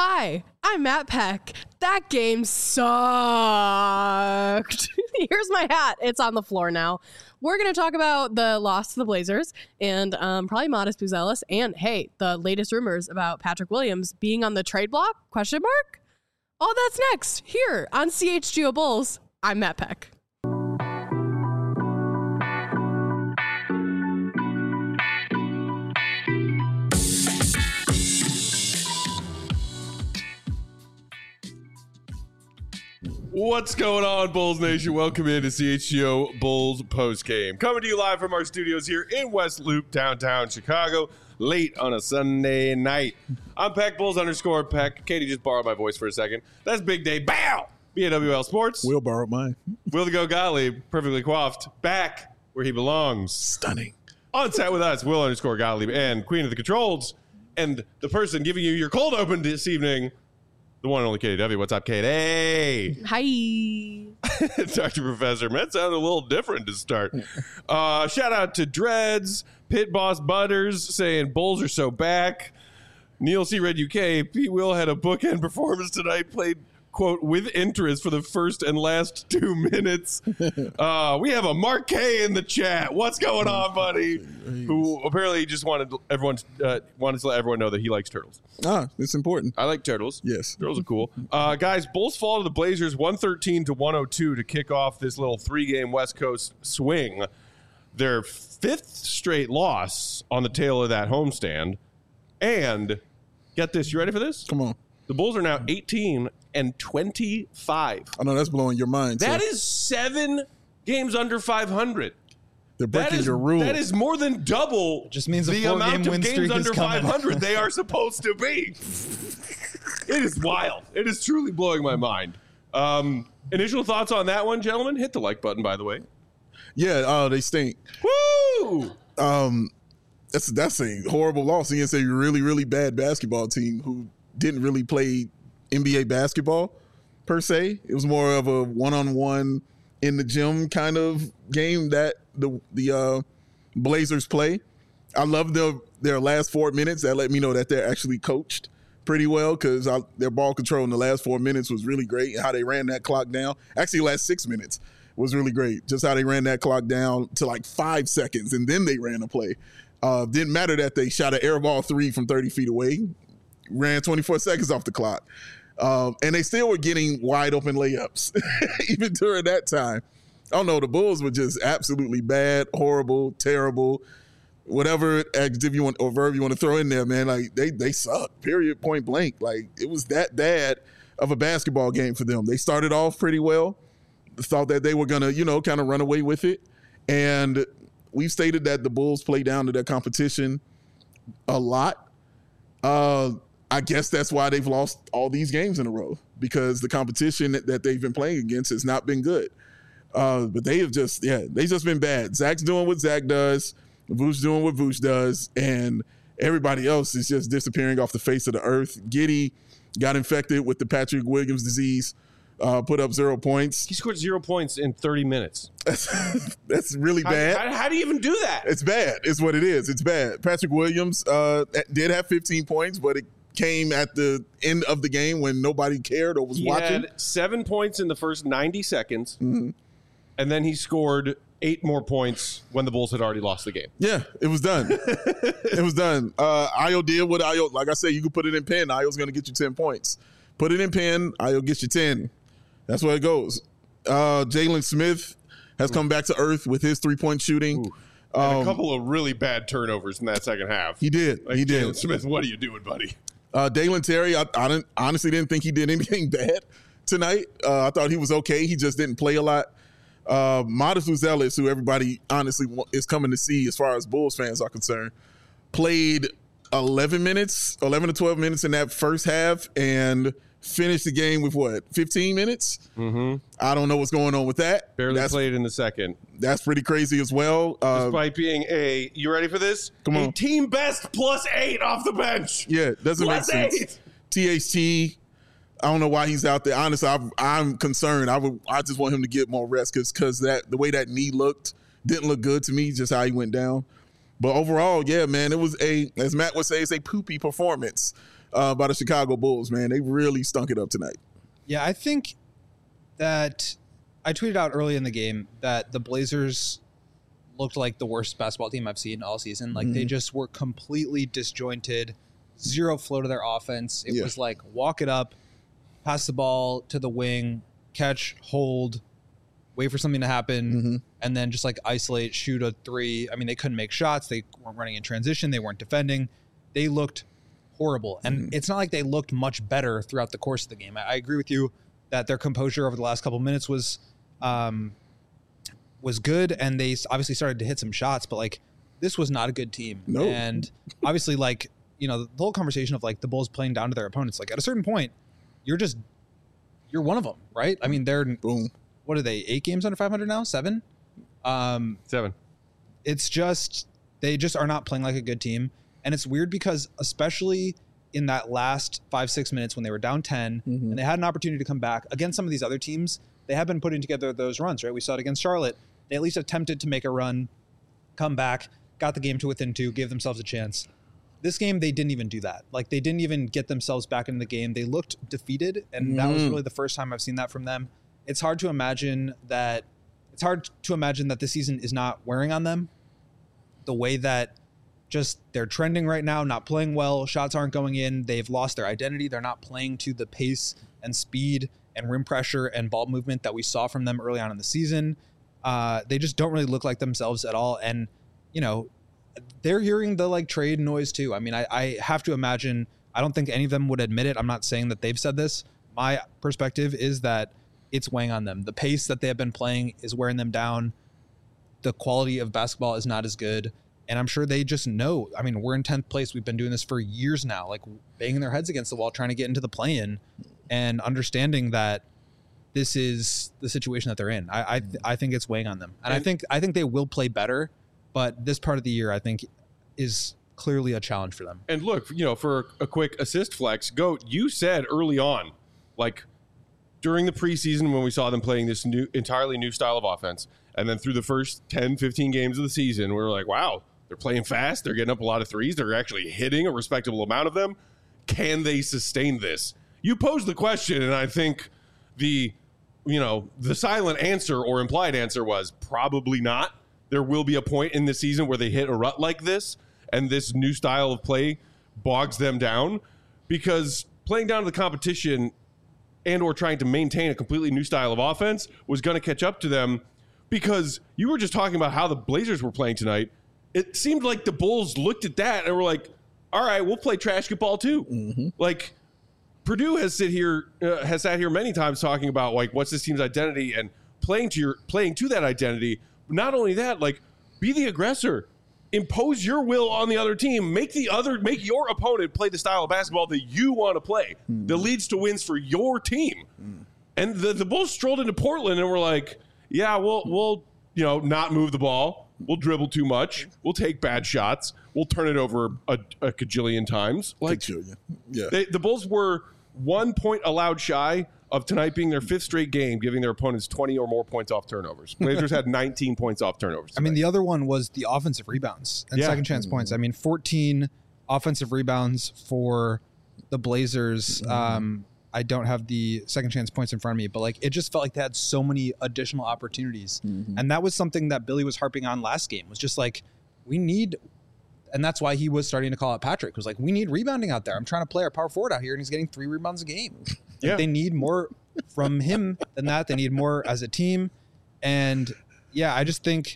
Hi, I'm Matt Peck. That game sucked. Here's my hat. It's on the floor now. We're going to talk about the loss to the Blazers and probably Modest Buzelis. And hey, the latest rumors about Patrick Williams being on the trade block? ? All that's next here on CHGO Bulls. I'm Matt Peck. What's going on, Bulls Nation? Welcome into CHGO Bulls Postgame. Coming to you live from our studios here in West Loop, downtown Chicago, late on a Sunday night. I'm Peck, Bulls _ Peck. Katie just borrowed my voice for a second. That's Big Day. Bow! BAWL Sports. Will borrowed mine. Will the Go Gottlieb, perfectly coiffed, back where he belongs. Stunning. On set with us, Will _ Gottlieb and Queen of the Controls. And the person giving you your cold open this evening, the one and only Katie W. What's up, Katie? Hi. Dr. Professor, that sounded a little different to start. Shout out to Dreads, Pit Boss Butters saying Bulls are so back. Neil C. Red UK, Pete Will had a bookend performance tonight, played, quote, with interest for the first and last 2 minutes. We have a Mark K in the chat. What's going on, buddy? Who apparently just wanted to let everyone know that he likes turtles. It's important. I like turtles. Yes. Turtles are cool. Guys, Bulls fall to the Blazers 113-102 to kick off this little 3-game West Coast swing. Their 5th straight loss on the tail of that homestand. And get this, you ready for this? Come on. The Bulls are now 18-25. I know that's blowing your mind. That is 7 games under 500. They're breaking your rule. That is more than double just means the amount of games under 500 they are supposed to be. It is wild. It is truly blowing my mind. Initial thoughts on that one, gentlemen? Hit the like button, by the way. Yeah, they stink. Woo! That's a horrible loss against a really, really bad basketball team who didn't really play NBA basketball per se. It was more of a one-on-one in the gym kind of game that the Blazers play. I love their last 4 minutes. That let me know that they're actually coached pretty well because their ball control in the last 4 minutes was really great, and how they ran that clock down. Actually, the last 6 minutes was really great. Just how they ran that clock down to like 5 seconds, and then they ran a play. Didn't matter that they shot an air ball 3 from 30 feet away. Ran 24 seconds off the clock. And they still were getting wide open layups, even during that time. I don't know. The Bulls were just absolutely bad, horrible, terrible, whatever adjective you want or verb you want to throw in there, man. Like they suck, period, point blank. Like it was that bad of a basketball game for them. They started off pretty well. Thought that they were going to, kind of run away with it. And we've stated that the Bulls play down to their competition a lot. I guess that's why they've lost all these games in a row, because the competition that they've been playing against has not been good. But they've just been bad. Zach's doing what Zach does, Vooch doing what Vooch does, and everybody else is just disappearing off the face of the earth. Giddey got infected with the Patrick Williams disease, put up 0 points. He scored 0 points in 30 minutes. That's really bad. How do you even do that? It's bad. It's what it is. It's bad. Patrick Williams did have 15 points, but it came at the end of the game when nobody cared or was watching. He had 7 points in the first 90 seconds, and then he scored 8 more points when the Bulls had already lost the game. Yeah, it was done. It was done. Ayo did what Ayo, like I said, you can put it in pen. Ayo's going to get you 10 points. Put it in pen, Ayo gets you 10. That's where it goes. Jalen Smith has come back to earth with his 3-point shooting. And a couple of really bad turnovers in that second half. He did. He did. Jalen Smith, what are you doing, buddy? Dalen Terry, I honestly didn't think he did anything bad tonight. I thought he was okay. He just didn't play a lot. Modest Buzelis, who everybody honestly is coming to see as far as Bulls fans are concerned, played 11 to 12 minutes in that first half and finished the game with 15 minutes? Mm-hmm. I don't know what's going on with that. Barely played in the second. That's pretty crazy as well. Despite being you ready for this? Come on. A team best +8 off the bench. Yeah, doesn't make sense. THT, I don't know why he's out there. Honestly, I'm concerned. I just want him to get more rest because the way that knee looked didn't look good to me, just how he went down. But overall, yeah, man, it was as Matt would say, it's a poopy performance. by the Chicago Bulls, man. They really stunk it up tonight. Yeah, I think that I tweeted out early in the game that the Blazers looked like the worst basketball team I've seen all season. Like they just were completely disjointed, zero flow to their offense. It was like walk it up, pass the ball to the wing, catch, hold, wait for something to happen, and then just like isolate, shoot a three. I mean, they couldn't make shots. They weren't running in transition. They weren't defending. They looked horrible. And it's not like they looked much better throughout the course of the game. I agree with you that their composure over the last couple minutes was good, and they obviously started to hit some shots, but like this was not a good team. No. And obviously, like, you know, the whole conversation of like the Bulls playing down to their opponents, like at a certain point, you're one of them, right? I mean, they're what are they, 8 games under 500 now? 7? 7. It's just, they just are not playing like a good team. And it's weird because especially in that last 5-6 minutes when they were down 10 and they had an opportunity to come back against some of these other teams, they have been putting together those runs, right? We saw it against Charlotte. They at least attempted to make a run, come back, got the game to within 2, gave themselves a chance. This game, they didn't even do that. Like, they didn't even get themselves back into the game. They looked defeated, and that was really the first time I've seen that from them. It's hard to imagine that this season is not wearing on them. The way that just they're trending right now, not playing well, shots aren't going in, they've lost their identity. They're not playing to the pace and speed and rim pressure and ball movement that we saw from them early on in the season. They just don't really look like themselves at all. And, you know, they're hearing the like trade noise too. I mean, I have to imagine, I don't think any of them would admit it. I'm not saying that they've said this. My perspective is that it's weighing on them. The pace that they have been playing is wearing them down. The quality of basketball is not as good. And I'm sure they just know. I mean, we're in 10th place. We've been doing this for years now, like banging their heads against the wall, trying to get into the play-in and understanding that this is the situation that they're in. I think it's weighing on them. And I think they will play better, but this part of the year, I think, is clearly a challenge for them. And look, you know, for a quick assist flex, Goat, you said early on, like during the preseason when we saw them playing this entirely new style of offense, and then through the first 10, 15 games of the season, we were like, wow, they're playing fast. They're getting up a lot of threes. They're actually hitting a respectable amount of them. Can they sustain this? You posed the question, and I think the silent answer or implied answer was probably not. There will be a point in the season where they hit a rut like this, and this new style of play bogs them down, because playing down to the competition and or trying to maintain a completely new style of offense was going to catch up to them, because you were just talking about how the Blazers were playing tonight. It seemed like the Bulls looked at that and were like, all right, we'll play trash ball too. Like, Purdue has sat here many times talking about like what's this team's identity and playing to that identity. Not only that, like, be the aggressor, impose your will on the other team, make your opponent play the style of basketball that you want to play, that leads to wins for your team. And the Bulls strolled into Portland and were like, yeah, we'll not move the ball. We'll dribble too much. We'll take bad shots. We'll turn it over a cajillion times. Like, yeah. The Bulls were 1 point allowed shy of tonight being their 5th straight game, giving their opponents 20 or more points off turnovers. Blazers had 19 points off turnovers tonight. I mean, the other one was the offensive rebounds and second chance points. I mean, 14 offensive rebounds for the Blazers. I don't have the second chance points in front of me, but like it just felt like they had so many additional opportunities. And that was something that Billy was harping on last game, was just like, we need, and that's why he was starting to call out Patrick, was like, we need rebounding out there. I'm trying to play our power forward out here and he's getting 3 rebounds a game. Like, they need more from him than that. They need more as a team. And yeah, I just think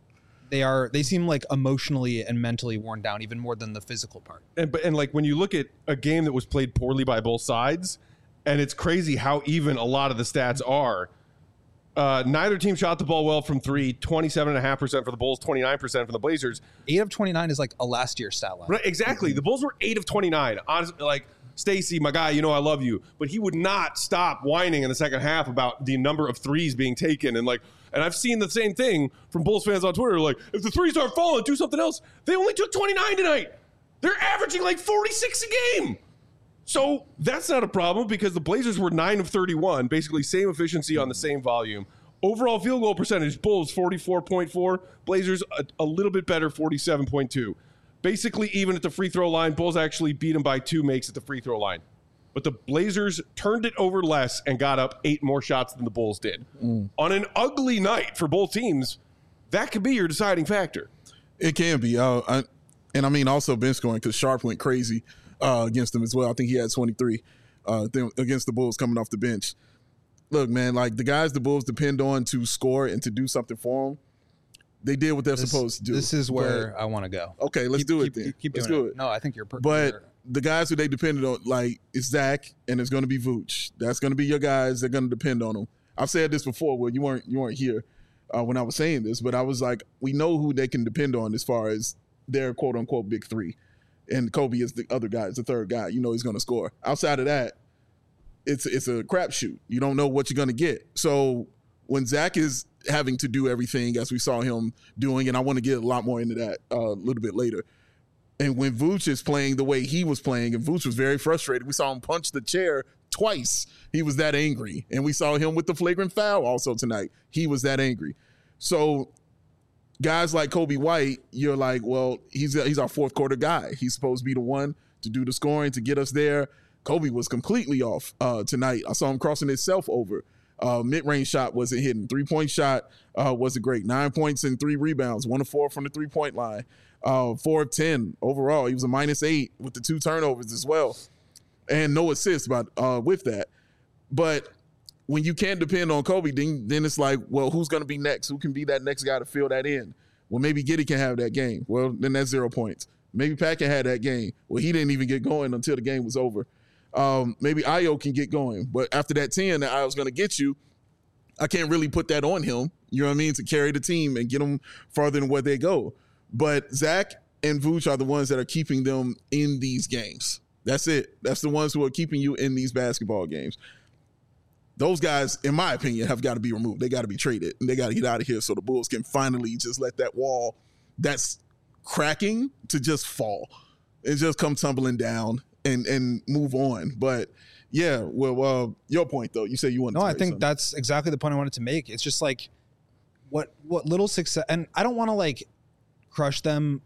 they seem like emotionally and mentally worn down even more than the physical part. And like when you look at a game that was played poorly by both sides, and it's crazy how even a lot of the stats are. Neither team shot the ball well from 3, 27.5% for the Bulls, 29% for the Blazers. 8 of 29 is like a last year stat line. Right, exactly. The Bulls were 8 of 29. Honestly, like, Stacey, my guy, you know I love you, but he would not stop whining in the second half about the number of threes being taken. And I've seen the same thing from Bulls fans on Twitter. Like, if the threes aren't falling, do something else. They only took 29 tonight. They're averaging like 46 a game. So that's not a problem, because the Blazers were 9 of 31, basically same efficiency on the same volume. Overall field goal percentage, Bulls 44.4, Blazers a little bit better, 47.2. basically even at the free throw line. Bulls actually beat them by 2 makes at the free throw line. But the Blazers turned it over less and got up 8 more shots than the Bulls did. On an ugly night for both teams, that could be your deciding factor. It can be. And I mean, also bench scoring, because Sharp went crazy against them as well. I think he had 23 against the Bulls coming off the bench. Look, man, like the guys the Bulls depend on to score and to do something for them, they did what they're supposed to do. This is where I want to go. Okay, let's do it then. Let's do it. No, I think you're perfect. But the guys who they depended on, like, it's Zach and it's going to be Vooch. That's going to be your guys. They're going to depend on them. I've said this before. Well, you weren't here when I was saying this, but I was like, we know who they can depend on as far as their quote unquote big 3, and Kobe is the other guy, is the third guy. You know he's going to score. Outside of that, it's a crapshoot. You don't know what you're going to get. So when Zach is having to do everything as we saw him doing, and I want to get a lot more into that a little bit later. And when Vooch is playing the way he was playing, and Vooch was very frustrated. We saw him punch the chair twice. He was that angry. And we saw him with the flagrant foul also tonight. He was that angry. So guys like Kobe White, you're like, well, he's our fourth quarter guy. He's supposed to be the one to do the scoring, to get us there. Kobe was completely off tonight. I saw him crossing himself over. Mid-range shot wasn't hitting. 3-point shot wasn't great. 9 points and 3 rebounds. 1 of 4 from the 3-point line. 4 of 10 overall. He was a -8 with the 2 turnovers as well. And no assists with that. But when you can't depend on Kobe, then it's like, well, who's going to be next? Who can be that next guy to fill that in? Well, maybe Giddey can have that game. Well, then that's 0 points. Maybe Pat can have that game. Well, he didn't even get going until the game was over. Maybe Ayo can get going. But after that 10 that Ayo's going to get you, I can't really put that on him, you know what I mean, to carry the team and get them farther than where they go. But Zach and Vooch are the ones that are keeping them in these games. That's it. That's the ones who are keeping you in these basketball games. Those guys, in my opinion, have got to be removed. They got to be traded, and they got to get out of here so the Bulls can finally just let that wall that's cracking to just fall and just come tumbling down and move on. But yeah, well, your point though, you say you want to. No, I think that's exactly the point I wanted to make. It's just like what little success, and I don't want to like crush them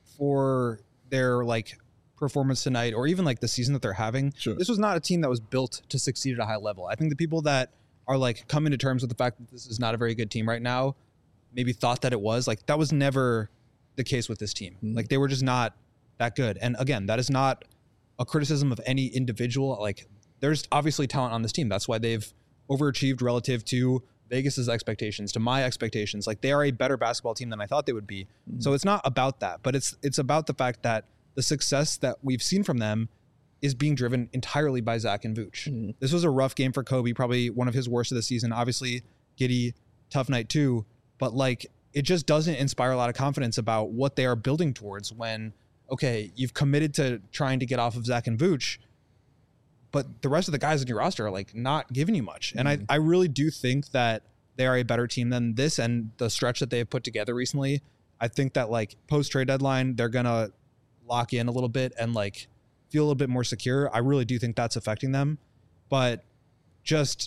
for their like performance tonight or even like the season that they're having. Sure. This was not a team that was built to succeed at a high level. I think the people that are like coming to terms with the fact that this is not a very good team right now maybe thought that it was. Like that was never the case with this team. Like they were just not that good. And again, that is not a criticism of any individual. Like there's obviously talent on this team. That's why they've overachieved relative to Vegas's expectations, to my expectations. Like they are a better basketball team than I thought they would be. So it's not about that, but it's about the fact that the success that we've seen from them is being driven entirely by Zach and Vooch. This was a rough game for Kobe, probably one of his worst of the season. Obviously, Giddey, tough night too, but like it just doesn't inspire a lot of confidence about what they are building towards when, okay, you've committed to trying to get off of Zach and Vooch, but the rest of the guys in your roster are like not giving you much. And I really do think that they are a better team than this and the stretch that they have put together recently. I think that like post-trade deadline, they're going to lock in a little bit and like feel a little bit more secure. I really do think that's affecting them, but just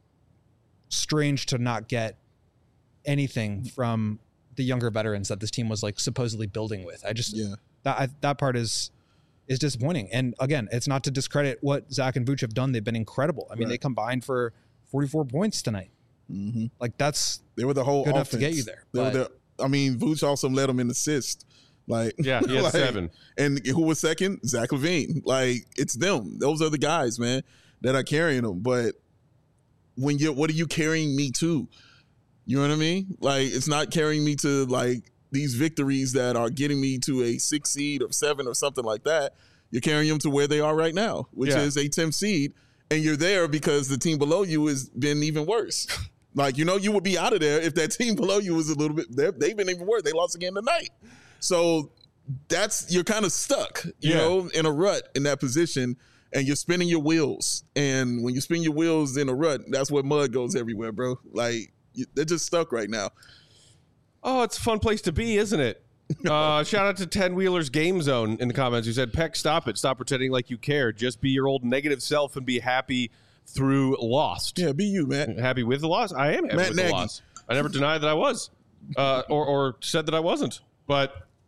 strange to not get anything from the younger veterans that this team was like supposedly building with. I just, that part is disappointing. And again, it's not to discredit what Zach and Vooch have done. They've been incredible. I mean, they combined for 44 points tonight. Like they were the whole good offense enough to get you there. Vooch also led them in assists. Like, yeah, he had 7. And who was second? Zach LaVine. Like, it's them. Those are the guys, man, that are carrying them. But what are you carrying me to? You know what I mean? Like, it's not carrying me to like these victories that are getting me to a 6 seed or 7 or something like that. You're carrying them to where they are right now, which is a 10th seed. And you're there because the team below you has been even worse. Like, you know, you would be out of there if that team below you was a little bit, they've been even worse. They lost again tonight. So you're kind of stuck, you know, in a rut in that position, and you're spinning your wheels. And when you spin your wheels in a rut, that's where mud goes everywhere, bro. Like, they're just stuck right now. Oh, it's a fun place to be, isn't it? Shout out to 10 Wheeler's Game Zone in the comments who said, Peck, stop it. Stop pretending like you care. Just be your old negative self and be happy through Lost. Yeah, be you, Matt. Happy with the loss? I am happy with the loss. I never denied that I was or said that I wasn't. But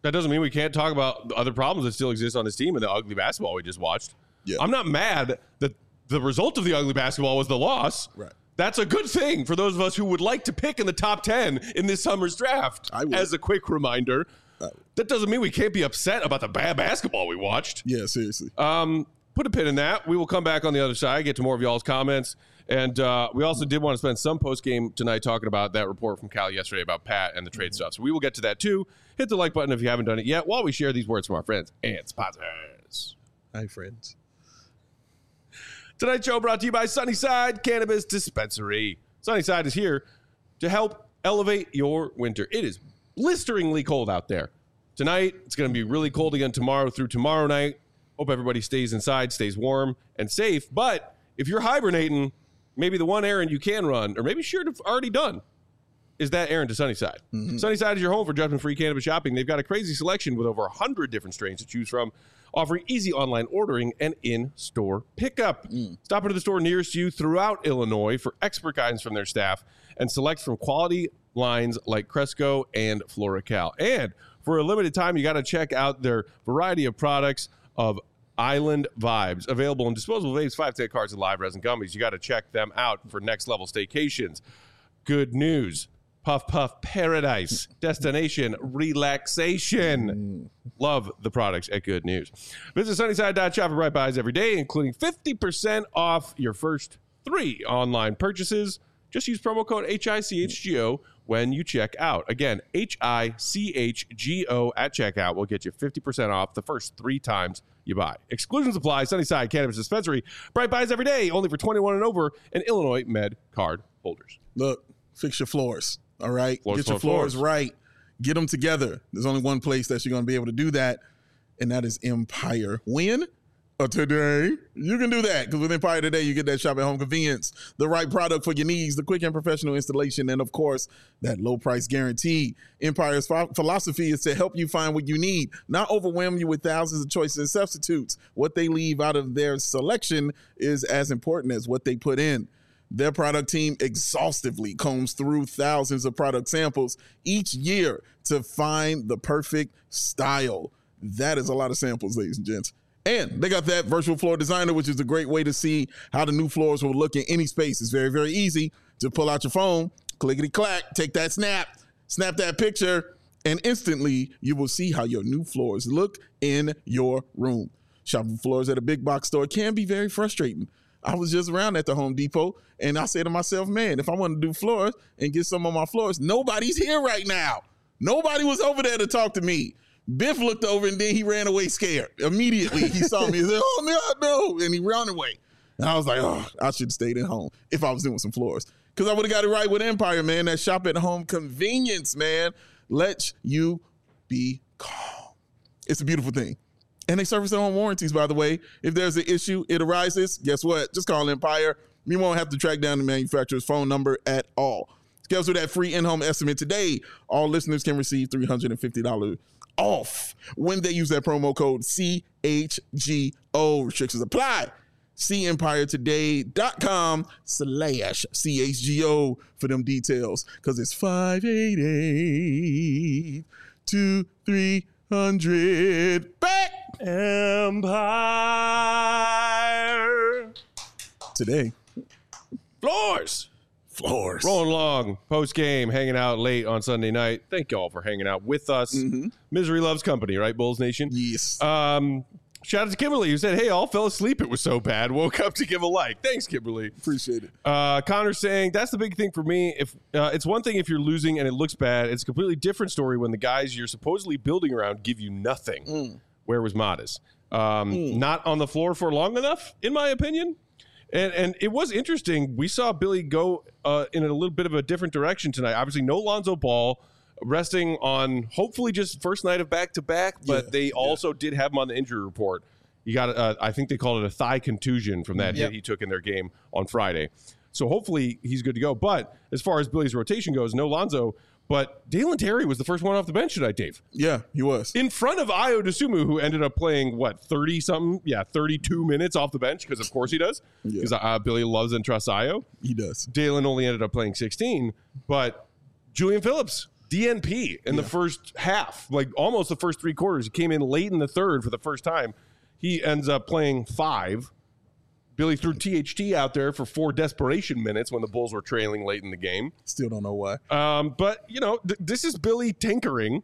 That doesn't mean we can't talk about the other problems that still exist on his team and the ugly basketball we just watched. Yeah. I'm not mad that the result of the ugly basketball was the loss. Right. That's a good thing for those of us who would like to pick in the top 10 in this summer's draft. I would. As a quick reminder, that doesn't mean we can't be upset about the bad basketball we watched. Yeah, seriously. Put a pin in that. We will come back on the other side, get to more of y'all's comments. And we also did want to spend some post-game tonight talking about that report from Cal yesterday about Pat and the trade stuff. So we will get to that too. Hit the like button if you haven't done it yet while we share these words from our friends and sponsors. Hi, friends. Tonight's show brought to you by Sunnyside Cannabis Dispensary. Sunnyside is here to help elevate your winter. It is blisteringly cold out there. Tonight, it's going to be really cold again tomorrow through tomorrow night. Hope everybody stays inside, stays warm and safe. But if you're hibernating, maybe the one errand you can run, or maybe should have already done, is that errand to Sunnyside. Mm-hmm. Sunnyside is your home for judgment-free cannabis shopping. They've got a crazy selection with over 100 different strains to choose from, offering easy online ordering and in-store pickup. Stop into the store nearest you throughout Illinois for expert guidance from their staff and select from quality lines like Cresco and FloraCal. And for a limited time, you got to check out their variety of products of Island Vibes, available in disposable vapes, 510 cards, and live resin gummies. You got to check them out for next-level staycations. Good news. Puff Puff Paradise, destination relaxation. Love the products at Good News. Visit Sunnyside.shop for Bright Buys every day, including 50% off your first 3 online purchases. Just use promo code HICHGO when you check out. Again, HICHGO at checkout will get you 50% off the first 3 times you buy. Exclusions apply. Sunnyside Cannabis Dispensary. Bright Buys every day, only for 21 and over, and Illinois Med card holders. Look, fix your floors. All right. Get your floors right. Get them together. There's only one place that you're going to be able to do that, and that is Empire. When? Today. You can do that because with Empire Today, you get that shop at home convenience, the right product for your needs, the quick and professional installation, and of course, that low price guarantee. Empire's philosophy is to help you find what you need, not overwhelm you with thousands of choices and substitutes. What they leave out of their selection is as important as what they put in. Their product team exhaustively combs through thousands of product samples each year to find the perfect style. That is a lot of samples, ladies and gents. And they got that virtual floor designer, which is a great way to see how the new floors will look in any space. It's very, very easy to pull out your phone, clickety-clack, take that snap that picture, and instantly you will see how your new floors look in your room. Shopping floors at a big box store can be very frustrating. I was just around at the Home Depot, and I said to myself, man, if I want to do floors and get some of my floors, nobody's here right now. Nobody was over there to talk to me. Biff looked over, and then he ran away scared. Immediately, he saw me. He said, oh, no, and he ran away. And I was like, oh, I should have stayed at home if I was doing some floors. Because I would have got it right with Empire, man. That shop at home convenience, man, lets you be calm. It's a beautiful thing. And they service their own warranties, by the way. If there's an issue, it arises, guess what? Just call Empire. You won't have to track down the manufacturer's phone number at all. Schedule that free in-home estimate today. All listeners can receive $350 off when they use that promo code CHGO. Restrictions apply. See EmpireToday.com/CHGO for them details, because it's 588-2300. Back Empire Today. Floors. Rolling along, post-game, hanging out late on Sunday night. Thank y'all for hanging out with us. Mm-hmm. Misery loves company, right, Bulls Nation? Yes. Shout out to Kimberly, who said, hey, all fell asleep. It was so bad. Woke up to give a like. Thanks, Kimberly. Appreciate it. Connor saying, that's the big thing for me. If it's one thing if you're losing and it looks bad. It's a completely different story when the guys you're supposedly building around give you nothing. Where was Modest? Not on the floor for long enough, in my opinion. And it was interesting. We saw Billy go in a little bit of a different direction tonight. Obviously, no Lonzo Ball, resting on hopefully just first night of back-to-back, but they also did have him on the injury report. You got, I think they called it a thigh contusion from that hit he took in their game on Friday. So hopefully he's good to go. But as far as Billy's rotation goes, no Lonzo. But Dalen Terry was the first one off the bench tonight, Dave. Yeah, he was. In front of Ayo Dosunmu, who ended up playing, 30-something? Yeah, 32 minutes off the bench, because of course he does. Because Billy loves and trusts Ayo. He does. Dalen only ended up playing 16. But Julian Phillips DNP in the first half, like almost the first 3 quarters. He came in late in the third for the first time. He ends up playing 5. Billy threw THT out there for 4 desperation minutes when the Bulls were trailing late in the game. Still don't know why. But, this is Billy tinkering,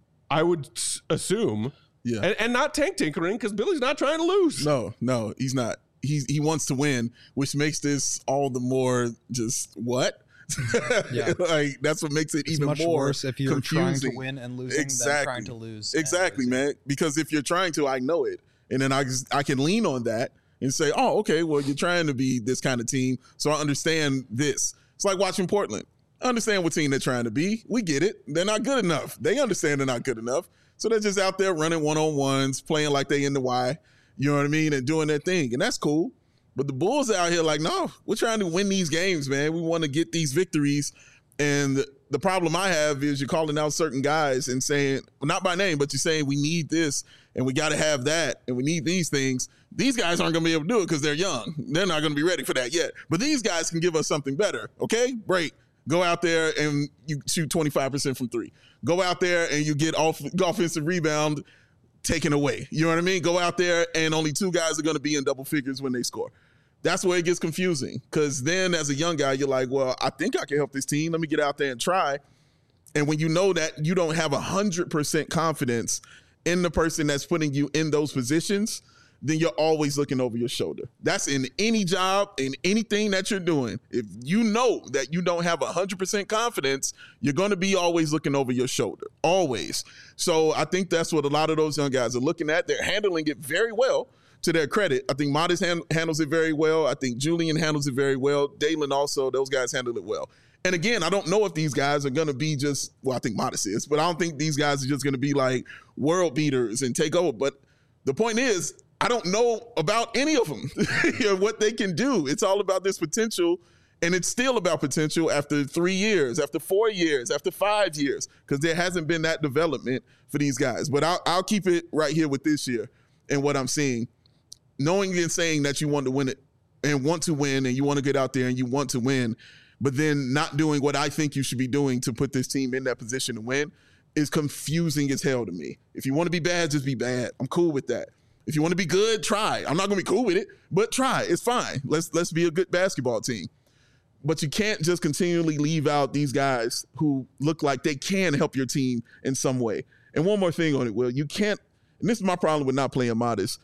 I would assume. Yeah. And not tank tinkering because Billy's not trying to lose. No, he's not. He wants to win, which makes this all the more just what? Yeah. Like that's what makes it It's even much more worse if you're trying to confusing. win and losing than trying to lose. and Exactly, losing. man. Because if you're trying to, I know it. And then I can lean on that and say, oh, okay, well, you're trying to be this kind of team. So I understand this. It's like watching Portland. I understand what team they're trying to be. We get it. They're not good enough. They understand they're not good enough. So they're just out there running one-on-ones, playing like they in the Y, you know what I mean, and doing their thing. And that's cool. But the Bulls out here like, no, we're trying to win these games, man. We want to get these victories. And the problem I have is you're calling out certain guys and saying, well, not by name, but you're saying we need this and we got to have that and we need these things. These guys aren't going to be able to do it because they're young. They're not going to be ready for that yet. But these guys can give us something better, okay? Great. Go out there and you shoot 25% from 3. Go out there and you get offensive rebound taken away. You know what I mean? Go out there and only 2 guys are going to be in double figures when they score. That's where it gets confusing because then as a young guy, you're like, well, I think I can help this team. Let me get out there and try. And when you know that you don't have 100% confidence in the person that's putting you in those positions, then you're always looking over your shoulder. That's in any job, in anything that you're doing. If you know that you don't have 100% confidence, you're going to be always looking over your shoulder, always. So I think that's what a lot of those young guys are looking at. They're handling it very well. To their credit, I think Modest handles it very well. I think Julian handles it very well. Dalen also, those guys handle it well. And again, I don't know if these guys are going to be just, well, I think Modest is, but I don't think these guys are just going to be like world beaters and take over. But the point is, I don't know about any of them, what they can do. It's all about this potential, and it's still about potential after 3 years, after 4 years, after 5 years, because there hasn't been that development for these guys. But I'll keep it right here with this year and what I'm seeing. Knowing and saying that you want to win it and want to win and you want to get out there and you want to win, but then not doing what I think you should be doing to put this team in that position to win is confusing as hell to me. If you want to be bad, just be bad. I'm cool with that. If you want to be good, try. I'm not going to be cool with it, but try. It's fine. Let's be a good basketball team. But you can't just continually leave out these guys who look like they can help your team in some way. And one more thing on it, Will. You can't, and this is my problem with not playing Modest.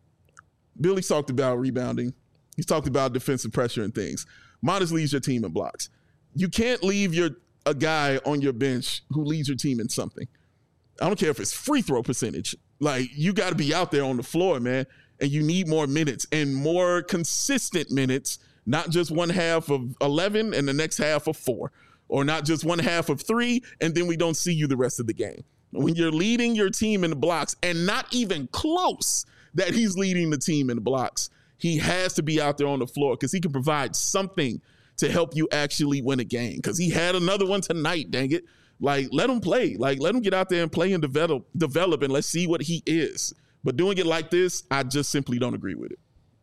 Billy's talked about rebounding. He's talked about defensive pressure and things. Modest leads your team in blocks. You can't leave a guy on your bench who leads your team in something. I don't care if it's free throw percentage. Like, you got to be out there on the floor, man, and you need more minutes and more consistent minutes, not just one half of 11 and the next half of 4, or not just one half of 3 and then we don't see you the rest of the game. When you're leading your team in the blocks and not even close that he's leading the team in the blocks, he has to be out there on the floor because he can provide something to help you actually win a game. Because he had another one tonight, dang it. Like, let him play. Like, let him get out there and play and develop, and let's see what he is. But doing it like this, I just simply don't agree with it.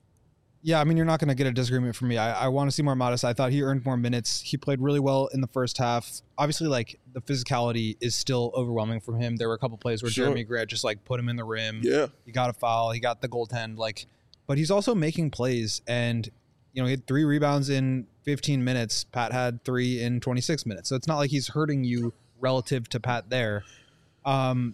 Yeah, I mean, you're not going to get a disagreement from me. I want to see more Modest. I thought he earned more minutes. He played really well in the first half. Obviously, like, the physicality is still overwhelming from him. There were a couple plays where Jeremy Grant just, like, put him in the rim. Yeah. He got a foul. He got the goaltend. Like, but he's also making plays. And, you know, he had 3 rebounds in 15 minutes. Pat had 3 in 26 minutes. So it's not like he's hurting you relative to Pat there. I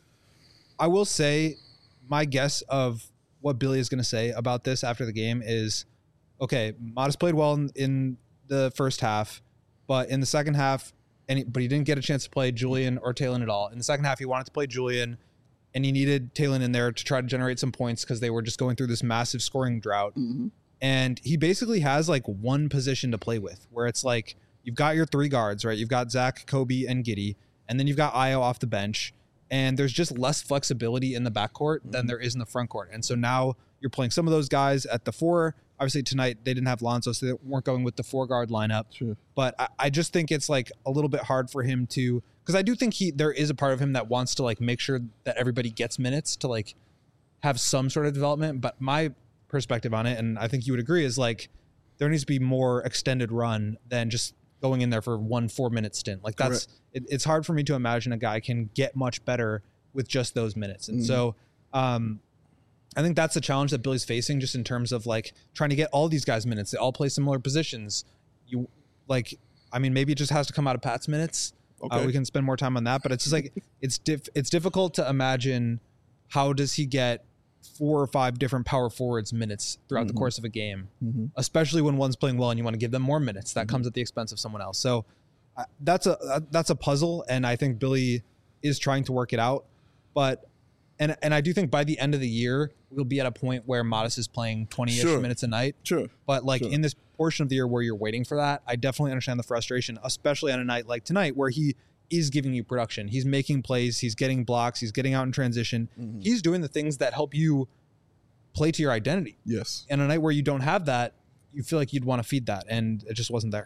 will say my guess of what Billy is going to say about this after the game is, okay, Modest played well in the first half, but in the second half, but he didn't get a chance to play Julian or Talen at all. In the second half, he wanted to play Julian, and he needed Talen in there to try to generate some points because they were just going through this massive scoring drought. Mm-hmm. And he basically has like one position to play with, where it's like you've got your 3 guards, right? You've got Zach, Kobe, and Giddey, and then you've got Ayo off the bench. And there's just less flexibility in the backcourt than there is in the front court. And so now you're playing some of those guys at the 4. Obviously tonight they didn't have Lonzo, so they weren't going with the 4-guard lineup. Sure. But I just think it's like a little bit hard for him to, because I do think there is a part of him that wants to like make sure that everybody gets minutes to like have some sort of development. But my perspective on it, and I think you would agree, is like there needs to be more extended run than just going in there for 1 4-minute stint. Like that's it's hard for me to imagine a guy can get much better with just those minutes. And so I think that's the challenge that Billy's facing, just in terms of like trying to get all these guys minutes. They all play similar positions. Maybe it just has to come out of Pat's minutes. Okay. We can spend more time on that, but it's just like it's difficult to imagine how does he get 4 or 5 different power forwards minutes throughout the course of a game, especially when one's playing well and you want to give them more minutes. That comes at the expense of someone else. So that's a puzzle, and I think Billy is trying to work it out. But and I do think by the end of the year we'll be at a point where Modest is playing 20-ish minutes a night. Sure. But in this portion of the year where you're waiting for that, I definitely understand the frustration, especially on a night like tonight where he is giving you production. He's making plays, he's getting blocks, he's getting out in transition. He's doing the things that help you play to your identity. Yes. And a night where you don't have that, you feel like you'd want to feed that, and it just wasn't there.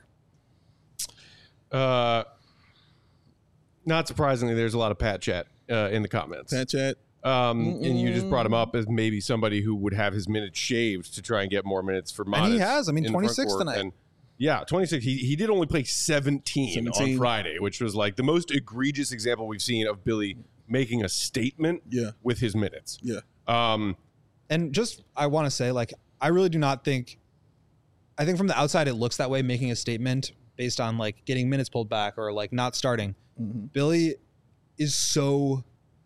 Not surprisingly, there's a lot of Pat chat in the comments. Pat chat. And you just brought him up as maybe somebody who would have his minutes shaved to try and get more minutes for Modest. And he has. in the front 26 court. tonight. And 26. He did only play 17 on Friday, which was like the most egregious example we've seen of Billy making a statement with his minutes. Yeah. And just, I want to say, I really do not think, I think from the outside it looks that way, making a statement based on getting minutes pulled back or not starting. Billy is so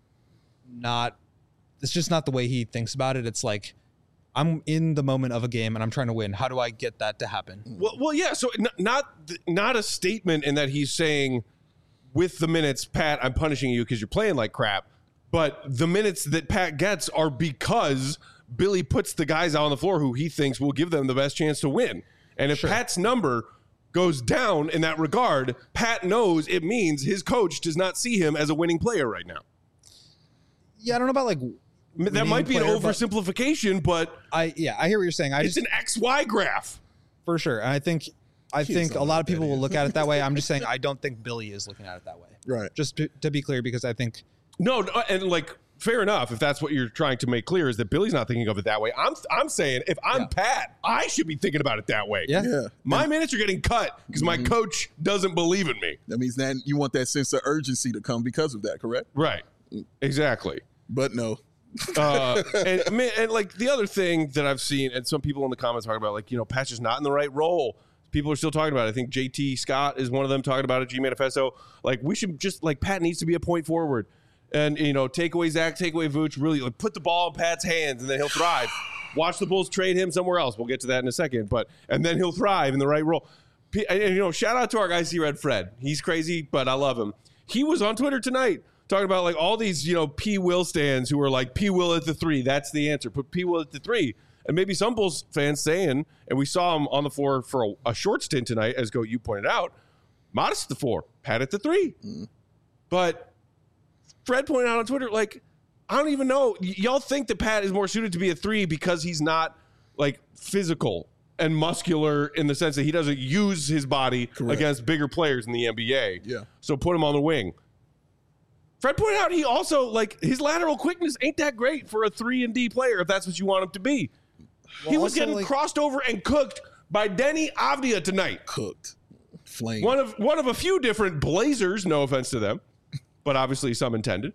not, it's just not the way he thinks about it. It's I'm in the moment of a game and I'm trying to win. How do I get that to happen? Well, yeah. So not a statement in that he's saying with the minutes, Pat, I'm punishing you because you're playing like crap. But the minutes that Pat gets are because Billy puts the guys out on the floor who he thinks will give them the best chance to win. And if Pat's number goes down in that regard, Pat knows it means his coach does not see him as a winning player right now. Yeah, I don't know about that might be an oversimplification, but I hear what you're saying. It's an XY graph for sure. And I think a lot of people will look at it that way. I'm just saying I don't think Billy is looking at it that way. Right. Just to be clear, because I think no, and fair enough if that's what you're trying to make clear is that Billy's not thinking of it that way. I'm saying if I'm Pat, I should be thinking about it that way. Yeah. My minutes are getting cut because my coach doesn't believe in me. That means that you want that sense of urgency to come because of that, correct? Right. Exactly. But no. And the other thing that I've seen, and some people in the comments talking about, Pat's just not in the right role. People are still talking about it. I think JT Scott is one of them talking about it. G Manifesto. We should just Pat needs to be a point forward, and take away Zach, take away Vooch. Really put the ball in Pat's hands, and then he'll thrive. Watch the Bulls trade him somewhere else. We'll get to that in a second, and then he'll thrive in the right role. And shout out to our guy C Red Fred. He's crazy, but I love him. He was on Twitter tonight talking about all these, P. Will stands who are P. Will at the 3. That's the answer. Put P. Will at the 3. And maybe some Bulls fans saying, and we saw him on the floor for a short stint tonight, as you pointed out, Modest at the 4, Pat at the 3. But Fred pointed out on Twitter, I don't even know. Y'all think that Pat is more suited to be a 3 because he's not physical and muscular in the sense that he doesn't use his body against bigger players in the NBA. Yeah. So put him on the wing. Fred pointed out he also, his lateral quickness ain't that great for a 3-and-D player if that's what you want him to be. He was getting crossed over and cooked by Denny Avdia tonight. Cooked. Flame. One of a few different Blazers, no offense to them, but obviously some intended,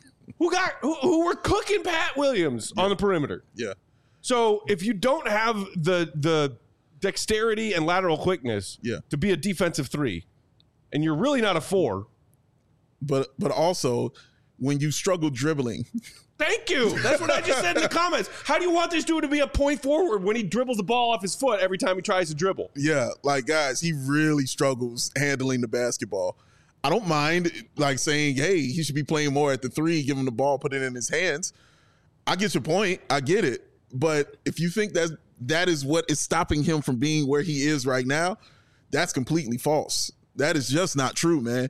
who were cooking Pat Williams on the perimeter. Yeah. So if you don't have the dexterity and lateral quickness to be a defensive 3, and you're really not a 4, But also, when you struggle dribbling. Thank you. That's what I just said in the comments. How do you want this dude to be a point forward when he dribbles the ball off his foot every time he tries to dribble? Yeah, guys, he really struggles handling the basketball. I don't mind, saying, hey, he should be playing more at the 3, give him the ball, put it in his hands. I get your point. I get it. But if you think that is what is stopping him from being where he is right now, that's completely false. That is just not true, man.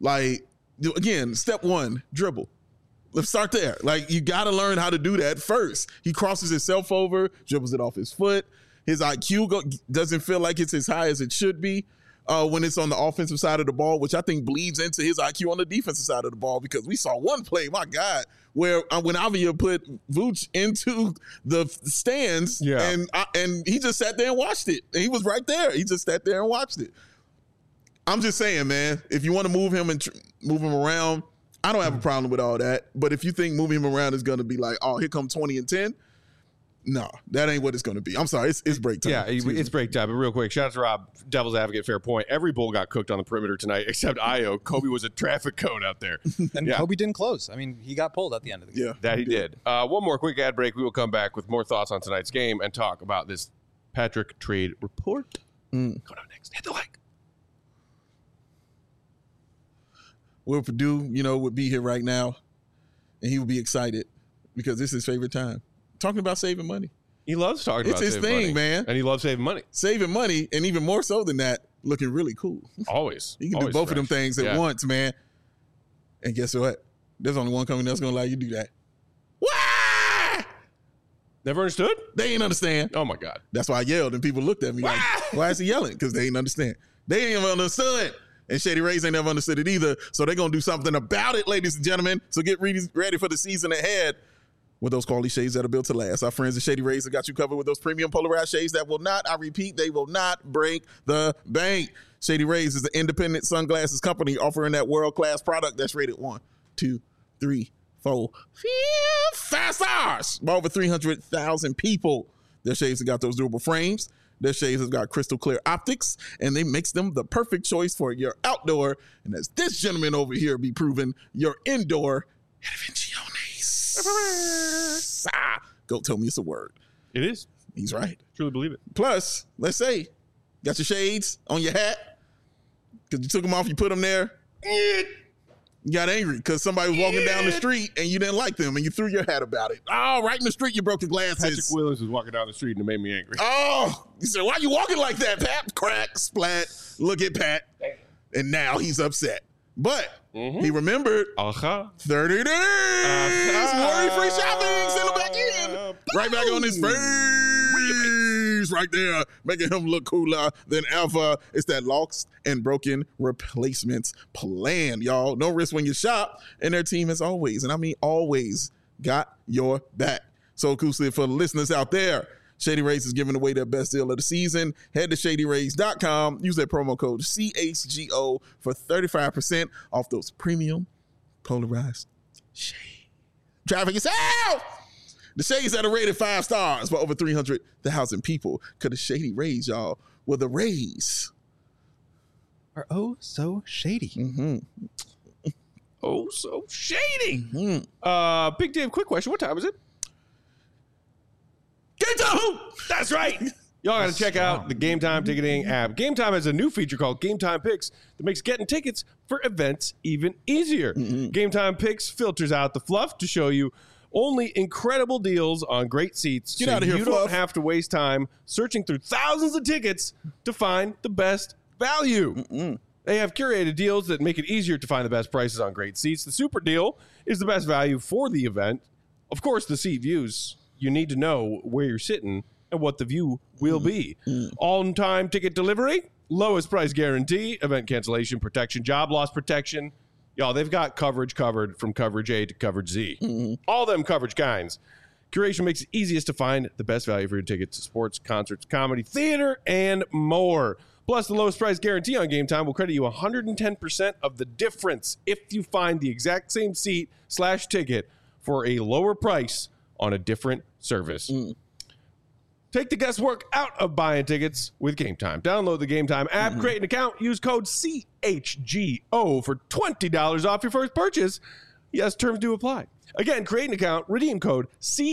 Again, step 1, dribble. Let's start there. You got to learn how to do that first. He crosses himself over, dribbles it off his foot. His IQ doesn't feel like it's as high as it should be when it's on the offensive side of the ball, which I think bleeds into his IQ on the defensive side of the ball, because we saw one play, my God, where when Avdia put Vooch into the stands and he just sat there and watched it. And he was right there. He just sat there and watched it. I'm just saying, man, if you want to move him and move him around, I don't have a problem with all that. But if you think moving him around is going to be like, oh, here come 20 and 10, no, that ain't what it's going to be. I'm sorry, it's break time. Yeah, it's break time. But real quick, shout out to Rob, Devil's Advocate, fair point. Every bull got cooked on the perimeter tonight except Io. Kobe was a traffic cone out there. And Kobe didn't close. I mean, he got pulled at the end of the game. Yeah, That he did. One more quick ad break. We will come back with more thoughts on tonight's game and talk about this Patrick trade report. Going on next. Hit the like. Will Purdue, would be here right now, and he would be excited because this is his favorite time. Talking about saving money. He loves talking It's about his saving thing, money. man. And he loves saving money. Saving money, and even more so than that, looking really cool. Always. You can do Always both of them fresh. things at Yeah. once, man. And guess what? There's only one company that's going to allow you to do that. Why? Never understood? They ain't understand. Oh, my God. That's why I yelled, and people looked at me like, why is he yelling? Because they ain't understand. They ain't even understood. And Shady Rays ain't never understood it either. So they're going to do something about it, ladies and gentlemen. So get ready for the season ahead with those quality shades that are built to last. Our friends at Shady Rays have got you covered with those premium polarized shades that will not, I repeat, they will not break the bank. Shady Rays is an independent sunglasses company offering that world-class product that's rated 1, 2, 3, 4, 5 stars by over 300,000 people. Their shades have got those durable frames. Their shades have got crystal clear optics, and they makes them the perfect choice for your outdoor. And as this gentleman over here be proven, your indoor intervenciones. Go tell me it's a word. It is. He's right. Truly believe it. Plus, let's say, got your shades on your hat because you took them off, you put them there. You got angry because somebody was walking down the street and you didn't like them and you threw your hat about it. Oh, right in the street, you broke the glasses. Patrick Williams was walking down the street and it made me angry. Oh, you said, why you walking like that, Pat? Crack, splat, look at Pat. And now he's upset. But he remembered 30 days. Worry-free shopping. Send him back in. Right back on his face. Right there. Making him look cooler than ever. It's that lost and broken replacements plan, y'all. No risk when you shop. And their team has always, and I mean always, got your back. So exclusive for the listeners out there. Shady Rays is giving away their best deal of the season. Head to ShadyRays.com. Use that promo code CHGO for 35% off those premium polarized shades. Traffic yourself! The shades that are rated 5 stars by over 300,000 people. Because the Shady Rays, y'all, were the Rays. Are oh so shady. Mm-hmm. Oh, so shady. Mm-hmm. Big Dave, quick question. What time is it? Game time! That's right. Y'all got to check out the Game Time ticketing app. Game Time has a new feature called Game Time Picks that makes getting tickets for events even easier. Game Time Picks filters out the fluff to show you only incredible deals on great seats. Get out of here, you fluff. don't have to waste time searching through thousands of tickets to find the best value. They have curated deals that make it easier to find the best prices on great seats. The Super Deal is the best value for the event. Of course, the seat views. You need to know where you're sitting and what the view will be. On-time ticket delivery, lowest price guarantee, event cancellation protection, job loss protection. Y'all, they've got coverage covered from coverage A to coverage Z. All them coverage kinds. Curation makes it easiest to find the best value for your tickets to sports, concerts, comedy, theater, and more. Plus, the lowest price guarantee on Game Time will credit you 110% of the difference if you find the exact same seat/ticket for a lower price on a different service. Take the guesswork out of buying tickets with Game Time. Download the Game Time app, create an account, use code CHGO for $20 off your first purchase. Yes, terms do apply. Again, create an account, redeem code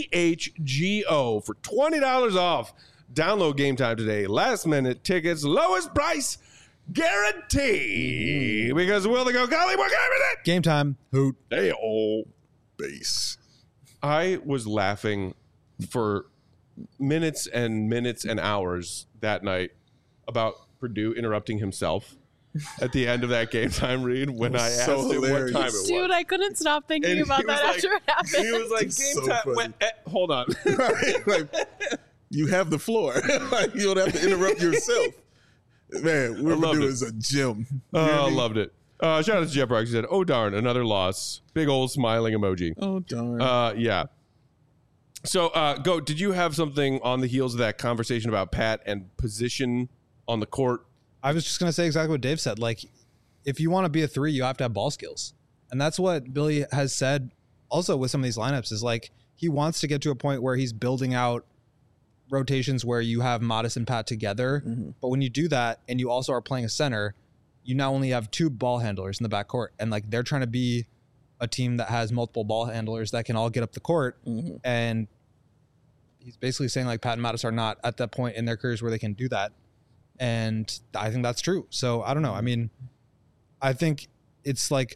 CHGO for $20 off. Download Game Time today. Last minute tickets, lowest price guarantee. Because Will the Go Collie, we're going with it. Game time. Hoot. Hey, oh. Base. I was laughing for minutes and hours that night about Purdue interrupting himself at the end of that Game Time read when I asked so him what hilarious. time it was. Dude, I couldn't stop thinking And about he that was after like- it happened. He was like, It's Game so Time. funny. Hold on. Like, you have the floor. Like, you don't have to interrupt yourself. Man, Will loved Purdue it. is a gem. Oh, loved it. Shout out to Jeff Rock. He said, oh, darn, another loss. Big old smiling emoji. Oh, darn. Yeah. So, Go, did you have something on the heels of that conversation about Pat and position on the court I was just going to say exactly what Dave said. Like, if you want to be a 3, you have to have ball skills. And that's what Billy has said also with some of these lineups is like, he wants to get to a point where he's building out rotations where you have Modest and Pat together. But when you do that and you also are playing a center, you now only have 2 ball handlers in the backcourt. And like, they're trying to be a team that has multiple ball handlers that can all get up the court. And he's basically saying like Pat and Modest are not at that point in their careers where they can do that. And I think that's true. So I don't know. I mean, I think it's like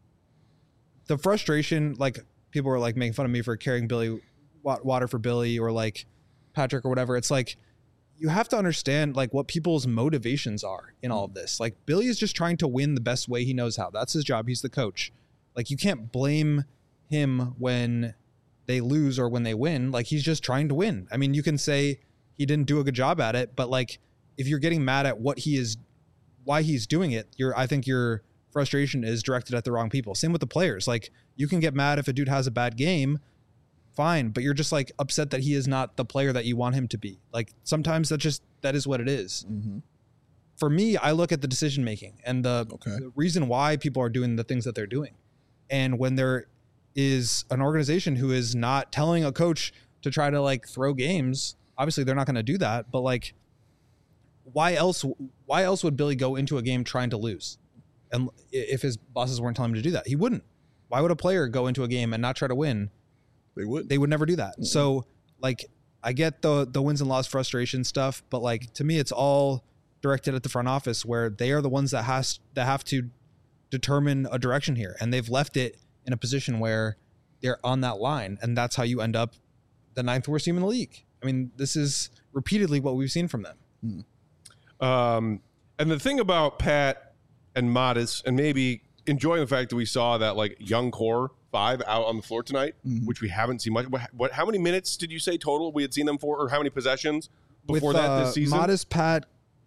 the frustration, like people were like making fun of me for carrying Billy water for Billy or like Patrick or whatever. It's like, you have to understand like what people's motivations are in all of this. Like Billy is just trying to win the best way he knows how. That's his job. He's the coach. Like you can't blame him when they lose or when they win. Like he's just trying to win. I mean, you can say he didn't do a good job at it, but like if you're getting mad at what he is, why he's doing it, I think your frustration is directed at the wrong people. Same with the players. Like you can get mad if a dude has a bad game, fine, but you're just like upset that he is not the player that you want him to be. Like sometimes that is what it is. For me, I look at the decision making and the reason why people are doing the things that they're doing. And when there is an organization who is not telling a coach to try to like throw games, obviously they're not going to do that, but like why else would Billy go into a game trying to lose? And if his bosses weren't telling him to do that, he wouldn't. Why would a player go into a game and not try to win? They would never do that. So like, I get the wins and loss frustration stuff, but like, to me, it's all directed at the front office where they are the ones that have to determine a direction here. And they've left it in a position where they're on that line. And that's how you end up the 9th worst team in the league. I mean, this is repeatedly what we've seen from them. And the thing about Pat and Modest, and maybe enjoying the fact that we saw that like young core 5 out on the floor tonight, which we haven't seen much. How many minutes did you say total we had seen them for, or how many possessions before that this season? Modest, Pat,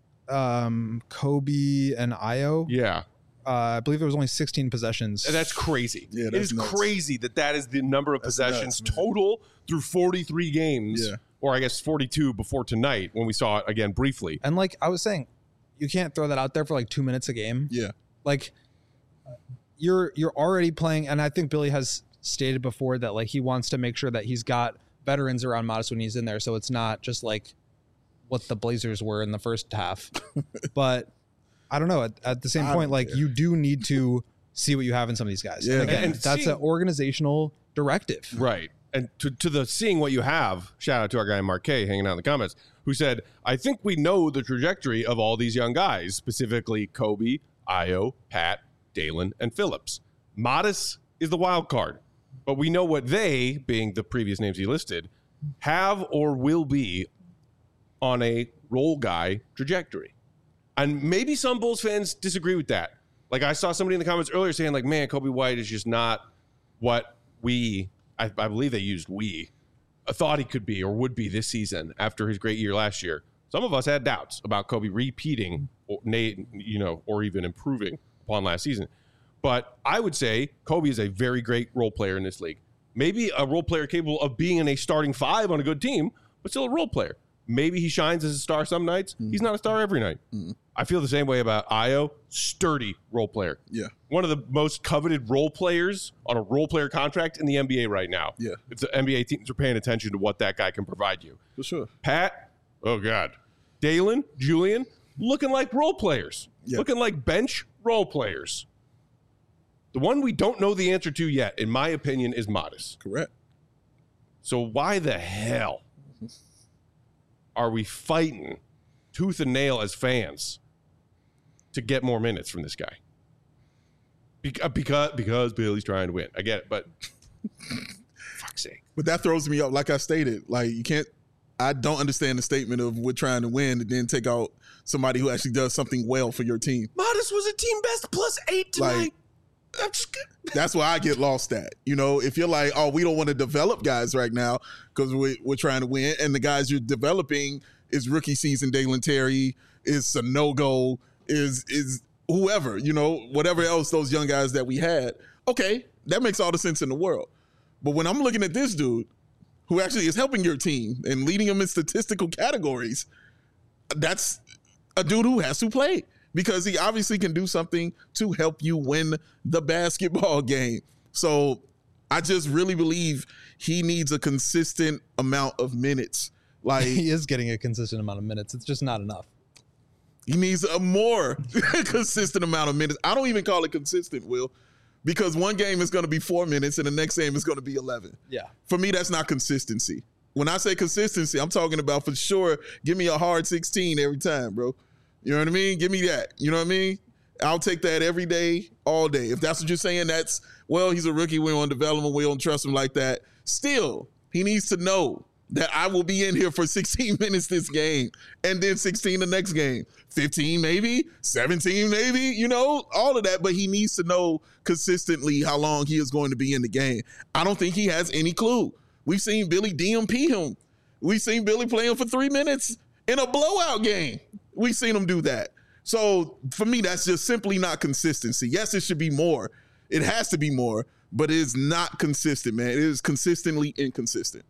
Kobe, and Io. Yeah. I believe it was only 16 possessions. And that's crazy. Yeah, it is nuts. Crazy that is the number of possessions total through 43 games. Yeah. Or I guess 42 before tonight when we saw it again briefly. And like I was saying, you can't throw that out there for like 2 minutes a game. Yeah. Like you're already playing, and I think Billy has stated before that like he wants to make sure that he's got veterans around Modest when he's in there, so it's not just like what the Blazers were in the first half. But I don't know. At the same point, like you do need to see what you have in some of these guys. Yeah. And again, that's an organizational directive. Right. And to the seeing what you have, shout out to our guy Mark K hanging out in the comments, who said, I think we know the trajectory of all these young guys, specifically Kobe, Io, Pat, Dalen, and Phillips. Modest is the wild card, but we know what they, being the previous names he listed, have or will be on a role guy trajectory. And maybe some Bulls fans disagree with that. Like I saw somebody in the comments earlier saying like, man, Kobe White is just not what I believe they used thought he could be or would be this season after his great year last year. Some of us had doubts about Kobe repeating or even improving upon last season. But I would say Kobe is a very great role player in this league. Maybe a role player capable of being in a starting 5 on a good team, but still a role player. Maybe he shines as a star some nights. He's not a star every night. I feel the same way about Io. Sturdy role player. Yeah. One of the most coveted role players on a role player contract in the NBA right now. Yeah. If the NBA teams are paying attention to what that guy can provide you. For sure. Pat, oh God. Dalen, Julian, looking like role players. Yeah. Looking like bench role players. The one we don't know the answer to yet, in my opinion, is Modest. Correct. So why the hell are we fighting tooth and nail as fans to get more minutes from this guy? Because Billy's trying to win. I get it, but fuck's sake. But that throws me up. Like I stated, like you can't. I don't understand the statement of we're trying to win and then take out somebody who actually does something well for your team. Modest was a team best +8 tonight. Like, that's where I get lost at. You know, if you're like, oh, we don't want to develop guys right now because we're trying to win, and the guys you're developing is rookie season Dalen Terry, is Sanogo, is whoever, you know, whatever else those young guys that we had. Okay, that makes all the sense in the world. But when I'm looking at this dude who actually is helping your team and leading them in statistical categories, a dude who has to play because he obviously can do something to help you win the basketball game. So I just really believe he needs a consistent amount of minutes. Like He is getting a consistent amount of minutes. It's just not enough. he needs a more consistent amount of minutes. I don't even call it consistent, Will, because one game is going to be 4 minutes and the next game is going to be 11. Yeah. For me, that's not consistency. When I say consistency, I'm talking about for sure, give me a hard 16 every time, bro. You know what I mean? Give me that. You know what I mean? I'll take that every day, all day. If that's what you're saying, that's, well, he's a rookie. We're on development. We don't trust him like that. Still, he needs to know that I will be in here for 16 minutes this game and then 16 the next game. 15 maybe, 17 maybe, you know, all of that. But he needs to know consistently how long he is going to be in the game. I don't think he has any clue. We've seen Billy DMP him. We've seen Billy play him for 3 minutes in a blowout game. We've seen him do that. So for me, that's just simply not consistency. Yes, it should be more. It has to be more, but it is not consistent, man. It is consistently inconsistent.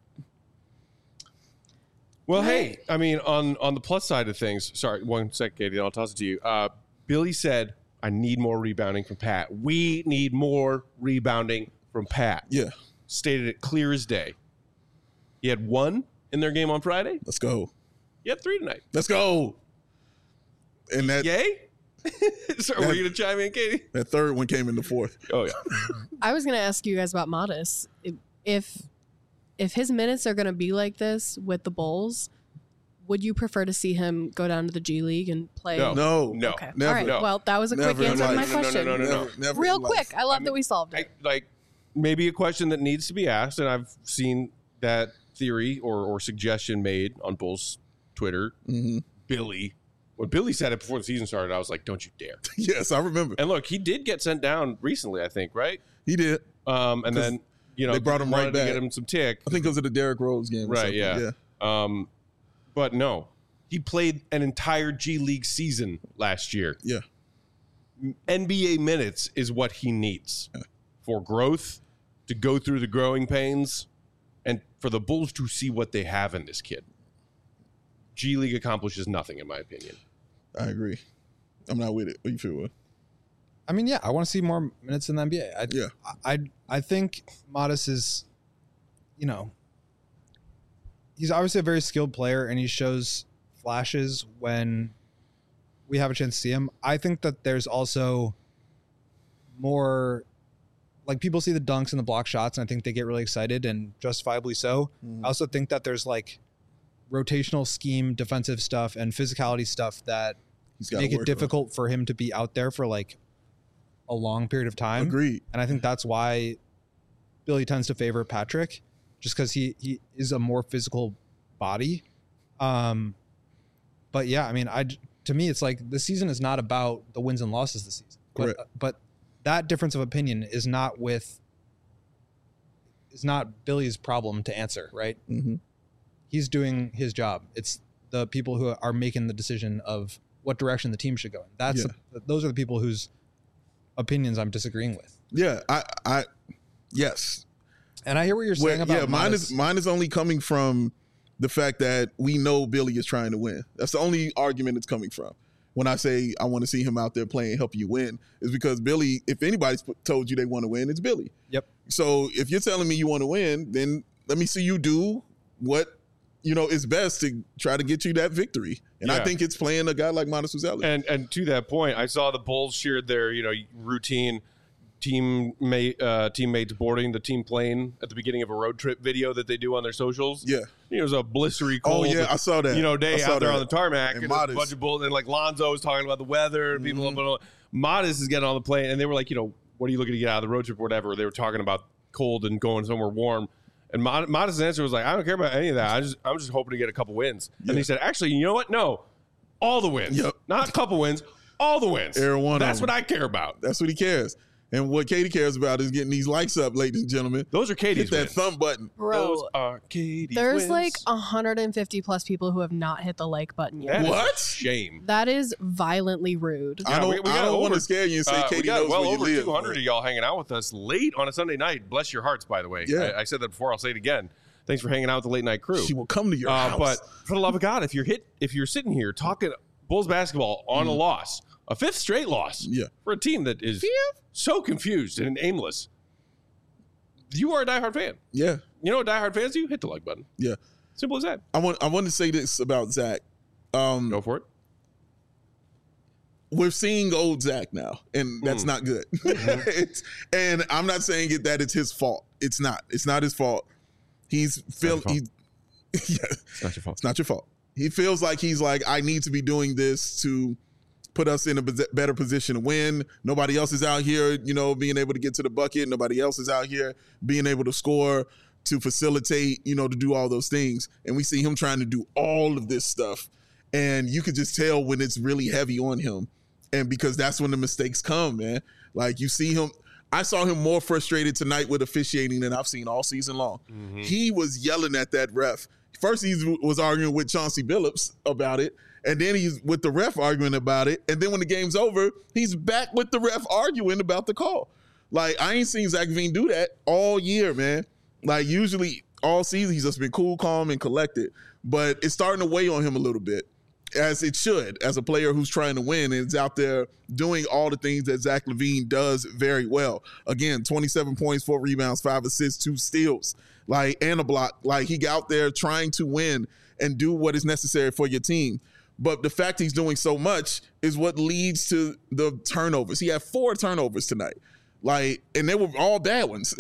Well, hey, I mean, on the plus side of things, sorry, 1 sec, Katie, I'll toss it to you. Billy said, I need more rebounding from Pat. We need more rebounding from Pat. Yeah. Stated it clear as day. He had 1 in their game on Friday. Let's go. He had 3 tonight. Let's go. And that Yay? Sorry, were you going to chime in, Katie? that third one came in the fourth. Oh, yeah. I was going to ask you guys about Modest. If his minutes are going to be like this with the Bulls, would you prefer to see him go down to the G League and play? No. Okay. Never. All right. No. Well, that was a Never quick in answer to my life. question. No. Never Real in life. quick. I love that we solved it. Like maybe a question that needs to be asked, and I've seen that theory or suggestion made on Bulls Twitter. Mm-hmm. Billy, when Billy said it before the season started, I was like, "Don't you dare!" Yes, I remember. And look, he did get sent down recently, I think, right? He did. And then they brought him wanted right to back. get him some tick, I think it was at the Derrick Rose game. Or right? something. Yeah. But no, he played an entire G League season last year. Yeah. NBA minutes is what he needs for growth, to go through the growing pains, and for the Bulls to see what they have in this kid. G League accomplishes nothing, in my opinion. I agree. I'm not with it. What do you feel with? I mean, yeah, I want to see more minutes in the NBA. I think Modest is, you know, he's obviously a very skilled player and he shows flashes when we have a chance to see him. I think that there's also more, like, people see the dunks and the block shots and I think they get really excited, and justifiably so. I also think that there's like rotational scheme, defensive stuff and physicality stuff that make it difficult for him to be out there for like a long period of time. Agreed. And I think that's why Billy tends to favor Patrick, just because he is a more physical body. But yeah, I mean, to me, it's like the season is not about the wins and losses this season. Correct. But that difference of opinion is not Billy's problem to answer, right? Mm-hmm. He's doing his job. It's the people who are making the decision of what direction the team should go in. Those are the people whose opinions I'm disagreeing with. Yeah, I yes. And I hear what you're saying about mine is only coming from the fact that we know Billy is trying to win. That's the only argument it's coming from. When I say I want to see him out there playing, help you win, is because Billy, if anybody's told you they want to win, it's Billy. Yep. So if you're telling me you want to win, then let me see you do what is best to try to get you that victory. And I think it's playing a guy like Modest Uzelli. And to that point, I saw the Bulls shared their routine teammates boarding the team plane at the beginning of a road trip video that they do on their socials. Yeah. It was a blistery cold. Oh yeah, I saw that. Day out there on the tarmac, and a bunch of Bulls, and like Lonzo was talking about the weather, and people. But Modest is getting on the plane, and they were like, what are you looking to get out of the road trip or whatever? They were talking about cold and going somewhere warm. And Modest's answer was like, I don't care about any of that. I'm just hoping to get a couple wins. Yeah. And he said, actually, you know what? No, all the wins. Yep. Not a couple wins, all the wins. That's what I care about. That's what he cares. And what Katie cares about is getting these likes up, ladies and gentlemen. Those are Katie's Hit that wins. thumb button. Bro, those are Katie's there's wins. like 150 plus people who have not hit the like button yet. That is What? a shame. That is violently rude. I don't, we got want over- to scare you and say we Katie got knows well where you over live. 200 of y'all hanging out with us late on a Sunday night. Bless your hearts, by the way. Yeah. I said that before. I'll say it again. Thanks for hanging out with the late night crew. She will come to your house. But for the love of God, if you're sitting here talking Bulls basketball on a loss, a 5th straight loss for a team that is so confused and aimless. You are a diehard fan. Yeah. You know what diehard fans do? Hit the like button. Yeah. Simple as that. I want to say this about Zach. Go for it. We're seeing old Zach now, and that's not good. And I'm not saying that it's his fault. It's not. It's not his fault. It's not your fault. It's not your fault. He feels like he's like, I need to be doing this to put us in a better position to win. Nobody else is out here, being able to get to the bucket. Nobody else is out here being able to score, to facilitate, to do all those things. And we see him trying to do all of this stuff. And you could just tell when it's really heavy on him. And because that's when the mistakes come, man. Like you see him. I saw him more frustrated tonight with officiating than I've seen all season long. He was yelling at that ref. First, he was arguing with Chauncey Billups about it. And then he's with the ref arguing about it. And then when the game's over, he's back with the ref arguing about the call. Like, I ain't seen Zach LaVine do that all year, man. Like, usually all season, he's just been cool, calm, and collected. But it's starting to weigh on him a little bit, as it should, as a player who's trying to win and is out there doing all the things that Zach LaVine does very well. Again, 27 points, 4 rebounds, 5 assists, 2 steals, and a block. Like, he got out there trying to win and do what is necessary for your team. But the fact he's doing so much is what leads to the turnovers. He had 4 turnovers tonight. And they were all bad ones,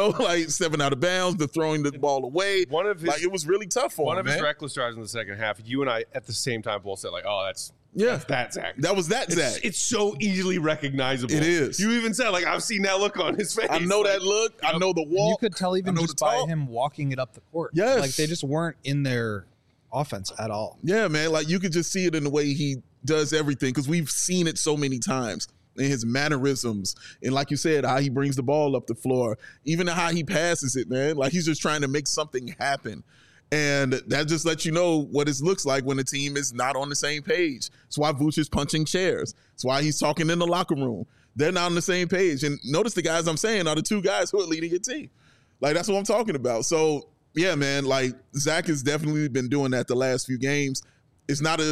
7 out of bounds, the throwing the ball away. It was really tough for him. One of his reckless drives in the second half, you and I at the same time both said, that's that Zach. That was that Zach. It's so easily recognizable. It is. You even said, I've seen that look on his face. I know that look. I know the walk. You could tell even just by him walking it up the court. Yes. Like, they just weren't in their offense at all. Yeah, man. Like, you could just see it in the way he does everything, because we've seen it so many times. In his mannerisms, and like you said, how he brings the ball up the floor, even how he passes it, man. Like, he's just trying to make something happen. And that just lets you know what it looks like when the team is not on the same page. That's why Vooch is punching chairs. That's why he's talking in the locker room. They're not on the same page. And notice the guys I'm saying are the 2 guys who are leading your team. Like, that's what I'm talking about. So, yeah, man, like, Zach has definitely been doing that the last few games. It's not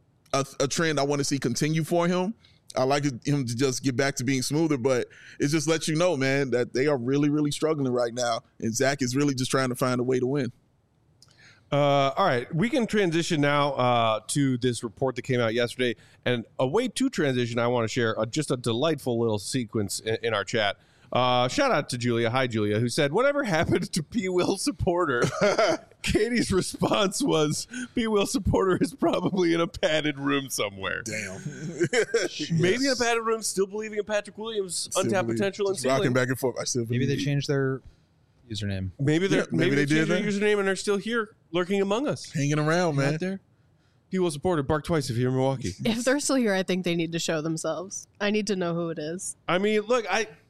a trend I want to see continue for him. I like him to just get back to being smoother, but it just lets you know, man, that they are really, really struggling right now. And Zach is really just trying to find a way to win. All right, we can transition now to this report that came out yesterday. And a way to transition, I want to share just a delightful little sequence in our chat. Shout out to Julia. Hi, Julia, who said, "Whatever happened to P. Will Supporter?" Katie's response was, "P. Will Supporter is probably in a padded room somewhere." Damn. Maybe in a padded room, still believing in Patrick Williams' untapped potential and ceiling. Rocking back and forth. Maybe they changed their username. Maybe they did changed their that. username and they're still here, lurking among us. Hanging around, man. Right there. P. Will Supporter, bark twice if you're in Milwaukee. If they're still here, I think they need to show themselves. I need to know who it is. I mean, look,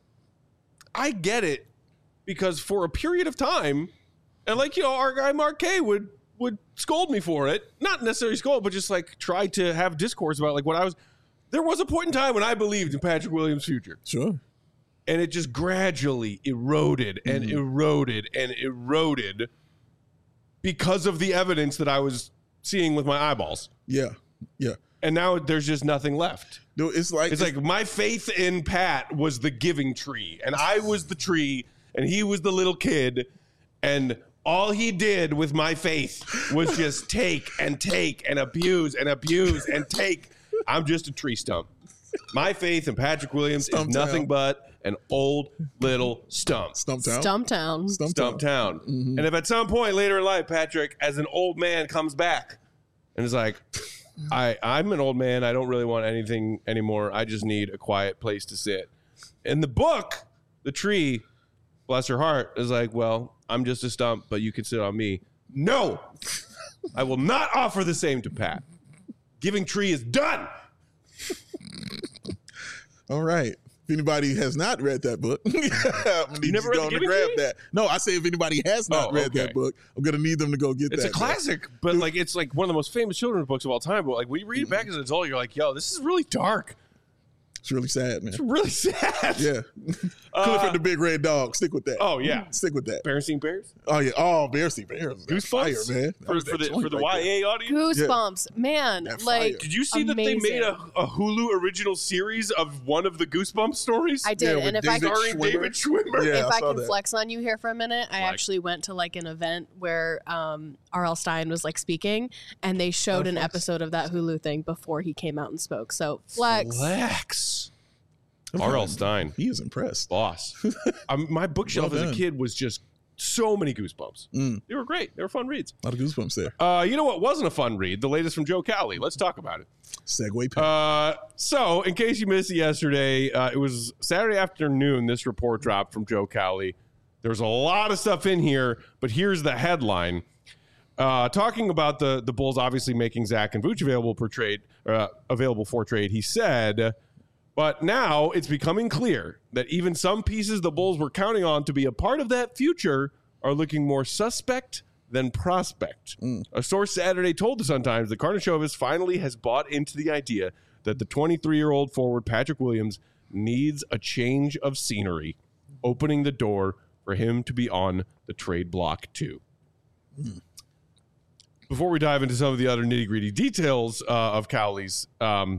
I get it, because for a period of time, and our guy Mark K would scold me for it. Not necessarily scold, but just try to have discourse about what I was. There was a point in time when I believed in Patrick Williams' future. Sure. And it just gradually eroded and eroded and eroded because of the evidence that I was seeing with my eyeballs. Yeah. Yeah. And now there's just nothing left. Dude, it's like my faith in Pat was the giving tree, and I was the tree, and he was the little kid, and all he did with my faith was just take and abuse and abuse and take. I'm just a tree stump. My faith in Patrick Williams is nothing but an old little stump. Stumptown. Stumptown. And if at some point later in life, Patrick, as an old man, comes back and is like, I'm an old man. I don't really want anything anymore. I just need a quiet place to sit. In the book, the tree, bless her heart, is like, well, I'm just a stump, but you can sit on me. No, I will not offer the same to Pat. Giving tree is done. All right. If anybody has not read that book, you never read The Giving Tree? that. No, I say if anybody has not read that book, I'm going to need them to go get It's that. a classic, but it's one of the most famous children's books of all time. But when you read it back as an adult, you're like, yo, this is really dark. It's really sad, man. It's really sad. Yeah. Clifford the Big Red Dog. Stick with that. Oh, yeah. Stick with that. Berenstain Bears? Oh, yeah. Oh, Berenstain Bears. Goosebumps? Fire, man. For the YA audience? Goosebumps, man. That Like, fire. Did you see that they made a Hulu original series of one of the Goosebumps stories? I did, Yeah, and with if I David Starring David Schwimmer. Yeah, if I I saw can that. flex on you here for a minute, I Flex. actually went to like an event where R.L. Stein was like speaking, and they showed an episode of that Hulu thing before he came out and spoke. So flex. R.L. Stein. He was impressed. Boss. My bookshelf Well as a done. kid was just so many Goosebumps. They were great. They were fun reads. A lot of goosebumps there. You know what wasn't a fun read? The latest from Joe Cowley. Let's talk about it. Segway pack. So, in case you missed it yesterday, it was Saturday afternoon. This report dropped from Joe Cowley. There's a lot of stuff in here, but here's the headline. Talking about the Bulls obviously making Zach and Vooch available for trade, he said, but now it's becoming clear that even some pieces the Bulls were counting on to be a part of that future are looking more suspect than prospect. A source Saturday told the Sun-Times that Karnisovas finally has bought into the idea that the 23-year-old forward Patrick Williams needs a change of scenery, opening the door for him to be on the trade block too. Before we dive into some of the other nitty-gritty details of Cowley's,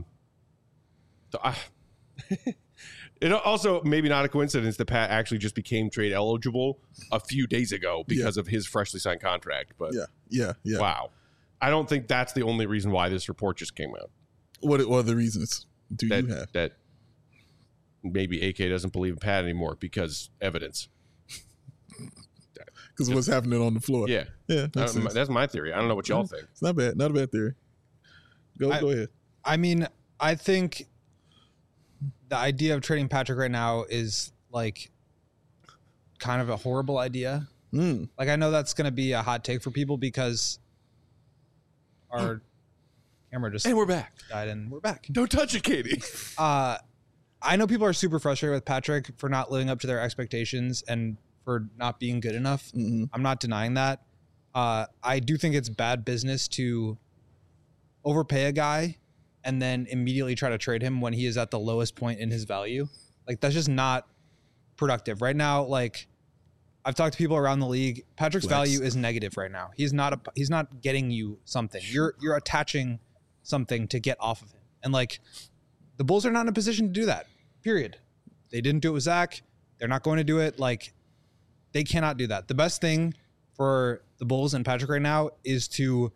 it also maybe not a coincidence that Pat actually just became trade eligible a few days ago because of his freshly signed contract. But Yeah. wow, I don't think that's the only reason why this report just came out. What other reasons do you have? That maybe AK doesn't believe in Pat anymore because evidence. Because what's happening on the floor. Yeah, Makes sense. that's my theory. I don't know what y'all think. It's not bad. Not a bad theory. Go ahead. I mean, I think the idea of trading Patrick right now is like kind of a horrible idea. Like, I know that's going to be a hot take for people because our camera just And we're back. died and we're back. Don't touch it, Katie. I know people are super frustrated with Patrick for not living up to their expectations and for not being good enough. I'm not denying that. I do think it's bad business to overpay a guy and then immediately try to trade him when he is at the lowest point in his value. Like, that's just not productive right now. Like, I've talked to people around the league. Patrick's value is negative right now. He's not getting you something. You're attaching something to get off of him. And like, the Bulls are not in a position to do that. Period. They didn't do it with Zach. They're not going to do it. Like, they cannot do that. The best thing for the Bulls and Patrick right now is to,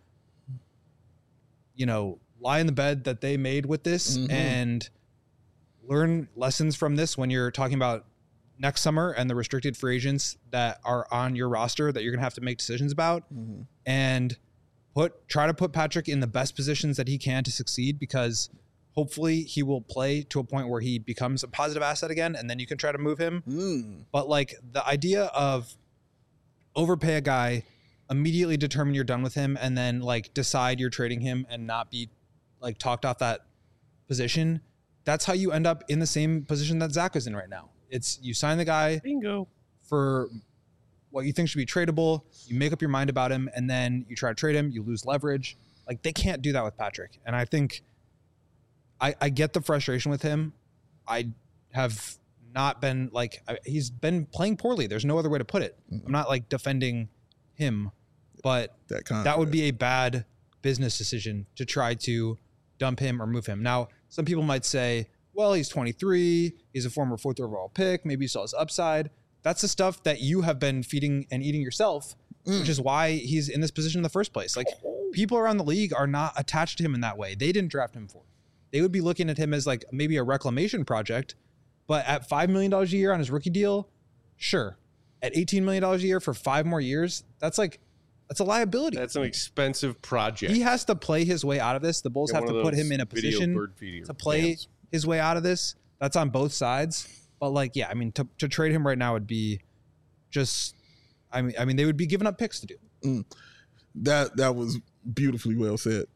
lie in the bed that they made with this and learn lessons from this when you're talking about next summer and the restricted free agents that are on your roster that you're going to have to make decisions about, and try to put Patrick in the best positions that he can to succeed, because hopefully he will play to a point where he becomes a positive asset again, and then you can try to move him. But like, the idea of overpay a guy, immediately determine you're done with him, and then like decide you're trading him and not be like talked off that position, that's how you end up in the same position that Zach is in right now. It's, you sign the guy Bingo. for what you think should be tradable, you make up your mind about him, and then you try to trade him, you lose leverage. Like, they can't do that with Patrick. And I think I get the frustration with him. I have not been like, he's been playing poorly. There's no other way to put it. I'm not like defending him, but that would be a bad business decision to try to dump him or move him. Now, some people might say, well, he's 23. He's a former 4th overall pick. Maybe you saw his upside. That's the stuff that you have been feeding and eating yourself, which is why he's in this position in the first place. Like, people around the league are not attached to him in that way. They didn't draft him for it. They would be looking at him as like maybe a reclamation project, but at $5 million a year on his rookie deal, sure. At $18 million a year for 5 more years, that's a liability. That's an expensive project. He has to play his way out of this. The Bulls have to put him in a position to play his way out of this. That's on both sides. But like, yeah, I mean, to trade him right now would be just, I mean, they would be giving up picks to do. That was beautifully well said.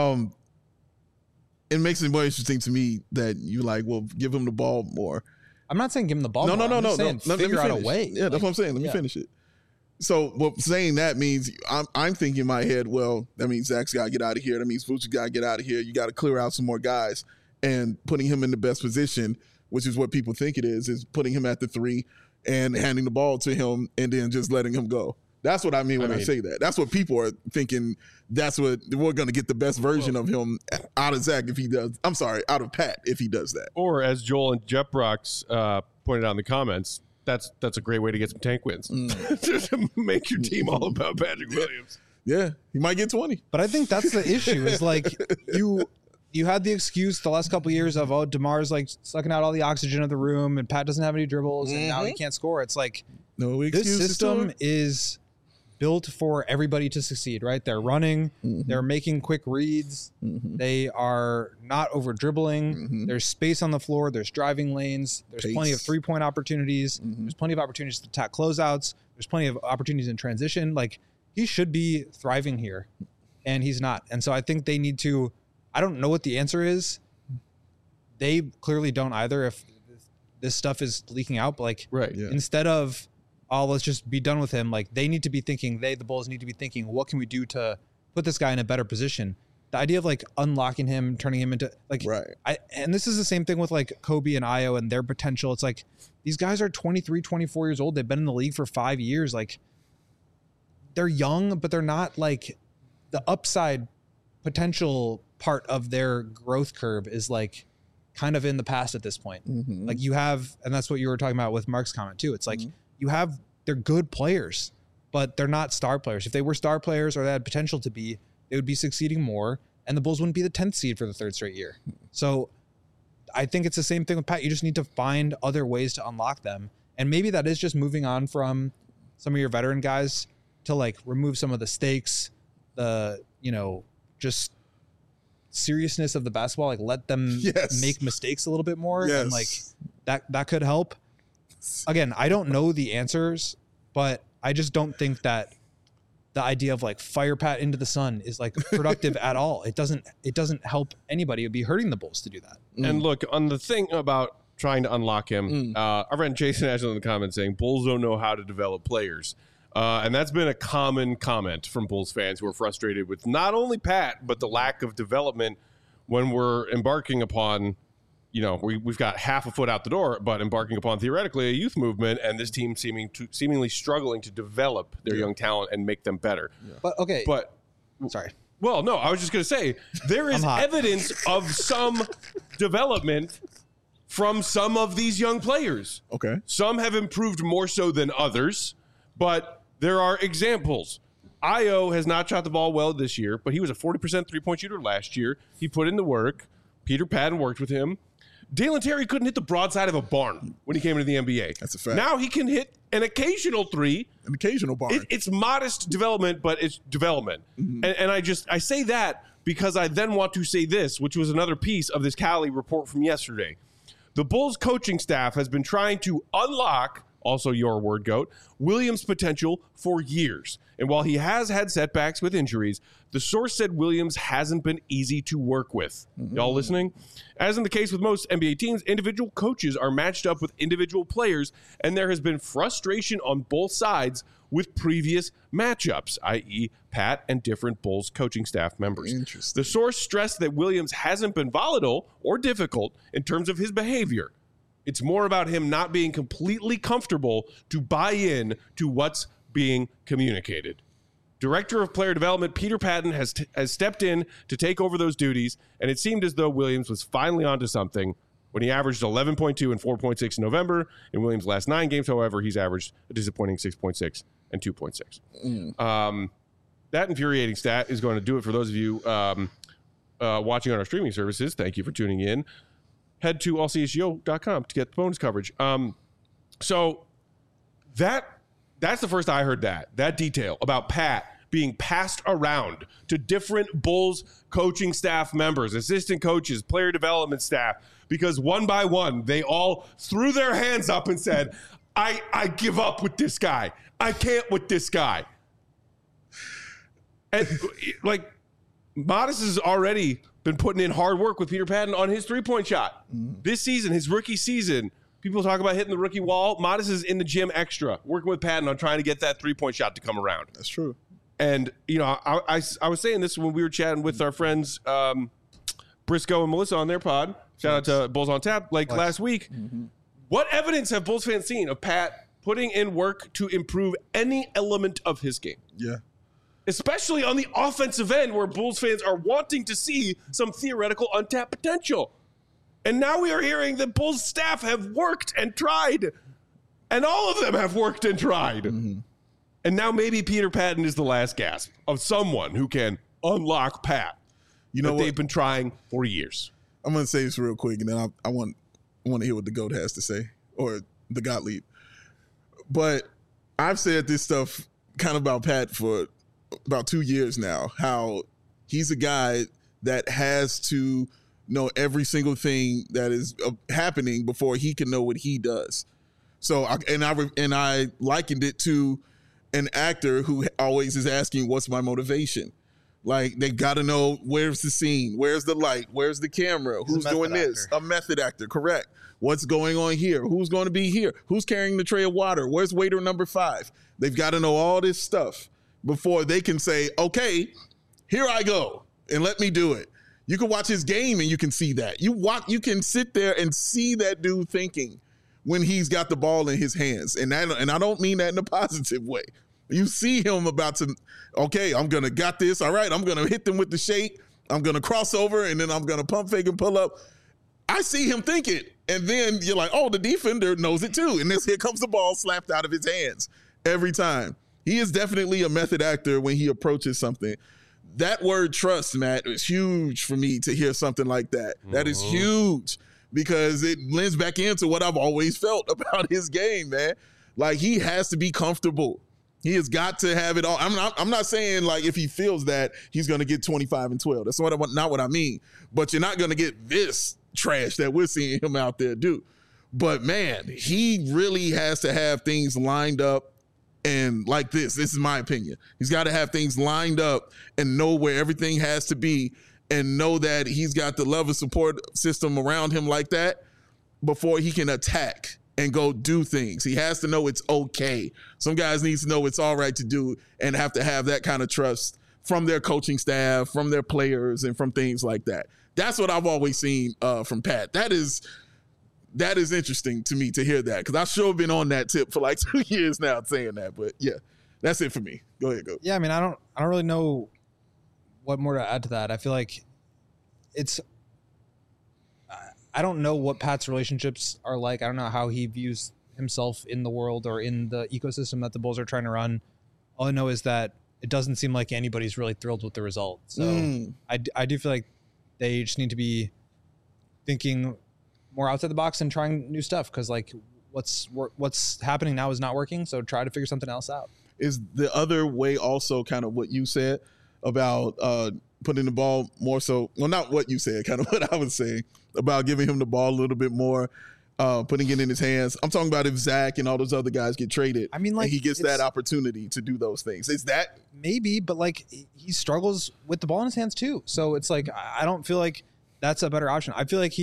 It makes it more interesting to me that you like, well, give him the ball more. I'm not saying give him the ball. No. Figure out a way. Yeah, that's what I'm saying. Let me finish it. So, what saying that means, I'm thinking in my head, well, that means Zach's got to get out of here. That means Vooch's got to get out of here. You got to clear out some more guys. and putting him in the best position, which is what people think it is putting him at the 3 and handing the ball to him and then just letting him go. That's what I mean when I say that. That's what people are thinking. That's what we're going to get the best version of him out of Zach if he does. I'm sorry, out of Pat if he does that. Or as Joel and Jeff Brooks pointed out in the comments, that's a great way to get some tank wins. Just to make your team all about Patrick Williams. Yeah, he might get 20. But I think that's the issue is like you had the excuse the last couple of years of, oh, DeMar's like sucking out all the oxygen of the room and Pat doesn't have any dribbles and now he can't score. It's like this system is built for everybody to succeed, right? They're running, they're making quick reads, they are not over dribbling, there's space on the floor, there's driving lanes, there's plenty of 3-point opportunities, there's plenty of opportunities to attack closeouts, there's plenty of opportunities in transition. Like, he should be thriving here, and he's not. And so I think they need to, I don't know what the answer is. They clearly don't either if this stuff is leaking out, but like, instead of, oh, let's just be done with him. Like, they need to be thinking, the Bulls need to be thinking, what can we do to put this guy in a better position? The idea of like unlocking him, turning him into like, and this is the same thing with like Kobe and Ayo and their potential. It's like, these guys are 23, 24 years old. They've been in the league for 5 years. Like, they're young, but they're not like the upside potential part of their growth curve is like kind of in the past at this point. Like, you have, and that's what you were talking about with Mark's comment too. It's like, they're good players, but they're not star players. If they were star players or they had potential to be, they would be succeeding more, and the Bulls wouldn't be the 10th seed for the 3rd straight year. So I think it's the same thing with Pat. You just need to find other ways to unlock them. And maybe that is just moving on from some of your veteran guys to like remove some of the stakes, the, just seriousness of the basketball, like let them make mistakes a little bit more. And like that could help. Again, I don't know the answers, but I just don't think that the idea of like fire Pat into the sun is like productive at all. It doesn't help anybody. It'd be hurting the Bulls to do that. And look, on the thing about trying to unlock him, our friend Jason Ashland in the comments saying Bulls don't know how to develop players. And that's been a common comment from Bulls fans who are frustrated with not only Pat, but the lack of development when we're embarking upon, we've got half a foot out the door, but embarking upon theoretically a youth movement, and this team seemingly struggling to develop their young talent and make them better. Sorry. Well, no, I was just going to say there is evidence of some development from some of these young players. Okay. Some have improved more so than others, but there are examples. Ayo has not shot the ball well this year, but he was a 40% three-point shooter last year. He put in the work. Peter Patton worked with him. Dalen Terry couldn't hit the broadside of a barn when he came into the NBA. That's a fact. Now he can hit an occasional three. An occasional barn. It's modest development, but it's development. And I say that because I then want to say this, which was another piece of this Cali report from yesterday. The Bulls coaching staff has been trying to unlock, also your word, GOAT, Williams' potential for years. And while he has had setbacks with injuries, the source said Williams hasn't been easy to work with. Y'all listening? As in the case with most NBA teams, individual coaches are matched up with individual players, and there has been frustration on both sides with previous matchups, i.e. Pat and different Bulls coaching staff members. Interesting. The source stressed that Williams hasn't been volatile or difficult in terms of his behavior. It's more about him not being completely comfortable to buy in to what's being communicated. Director of Player Development Peter Patton has stepped in to take over those duties, and it seemed as though Williams was finally onto something when he averaged 11.2 and 4.6 in November. In Williams' last 9 games, however, he's averaged a disappointing 6.6 and 2.6. That infuriating stat is going to do it for those of you watching on our streaming services. Thank you for tuning in. Head to allcsgo.com to get the bonus coverage. So that's the first I heard that detail about Pat being passed around to different Bulls coaching staff members, assistant coaches, player development staff, because one by one, they all threw their hands up and said, I give up with this guy. I can't with this guy. And like, Modest has already been putting in hard work with Peter Patton on his three-point shot. This season, his rookie season, people talk about hitting the rookie wall. Modest is in the gym extra, working with Patton on trying to get that three-point shot to come around. That's true. And, I was saying this when we were chatting with our friends Briscoe and Melissa on their pod. Shout out to Bulls on Tap. Like Flex. last week, what evidence have Bulls fans seen of Pat putting in work to improve any element of his game? Yeah. Especially on the offensive end where Bulls fans are wanting to see some theoretical untapped potential. And now we are hearing that Bulls staff have worked and tried. And all of them have worked and tried. And now maybe Peter Patton is the last gasp of someone who can unlock Pat. You know that what? they've been trying for years. I'm going to say this real quick, and then I want to hear what the GOAT has to say, or the Gottlieb. But I've said this stuff kind of about Pat for about 2 years now, how he's a guy that has to know every single thing that is happening before he can know what he does. So, I likened it to an actor who always is asking, what's my motivation? Like, they got to know, where's the scene? Where's the light? Where's the camera? He's Who's a doing method this? actor. A method actor, correct. What's going on here? Who's going to be here? Who's carrying the tray of water? Where's waiter number 5? They've got to know all this stuff before they can say, okay, here I go, and let me do it. You can watch his game and you can see that. You can sit there and see that dude thinking when he's got the ball in his hands. And I don't mean that in a positive way. You see him about to, okay, I'm going to got this. All right, I'm going to hit them with the shake. I'm going to cross over, and then I'm going to pump fake and pull up. I see him think it. And then you're like, oh, the defender knows it too. And here comes the ball slapped out of his hands every time. He is definitely a method actor when he approaches something. That word trust, Matt, is huge for me to hear something like that. That is huge because it lends back into what I've always felt about his game, man. Like, he has to be comfortable. He has got to have it all. I'm not saying, like, if he feels that, he's going to get 25 and 12. That's not what I mean. But you're not going to get this trash that we're seeing him out there do. But, man, he really has to have things lined up. And like this is my opinion. He's got to have things lined up and know where everything has to be and know that he's got the love and support system around him like that before he can attack and go do things. He has to know it's okay. Some guys need to know it's all right to do and have to have that kind of trust from their coaching staff, from their players, and from things like that. That's what I've always seen from Pat. That is interesting to me to hear that because I've sure been on that tip for like 2 years now saying that. But yeah, that's it for me. Go ahead, go. Yeah, I mean, I don't really know what more to add to that. I feel like I don't know what Pat's relationships are like. I don't know how he views himself in the world or in the ecosystem that the Bulls are trying to run. All I know is that it doesn't seem like anybody's really thrilled with the result. So I do feel like they just need to be thinking more outside the box and trying new stuff because like what's happening now is not working. So try to figure something else out. Is the other way also kind of what you said about putting the ball more so, well, not what you said, kind of what I was saying about giving him the ball a little bit more, putting it in his hands. I'm talking about if Zach and all those other guys get traded. I mean, like, and he gets that opportunity to do those things. Is that maybe, but like he struggles with the ball in his hands too. So it's like, I don't feel like that's a better option. I feel like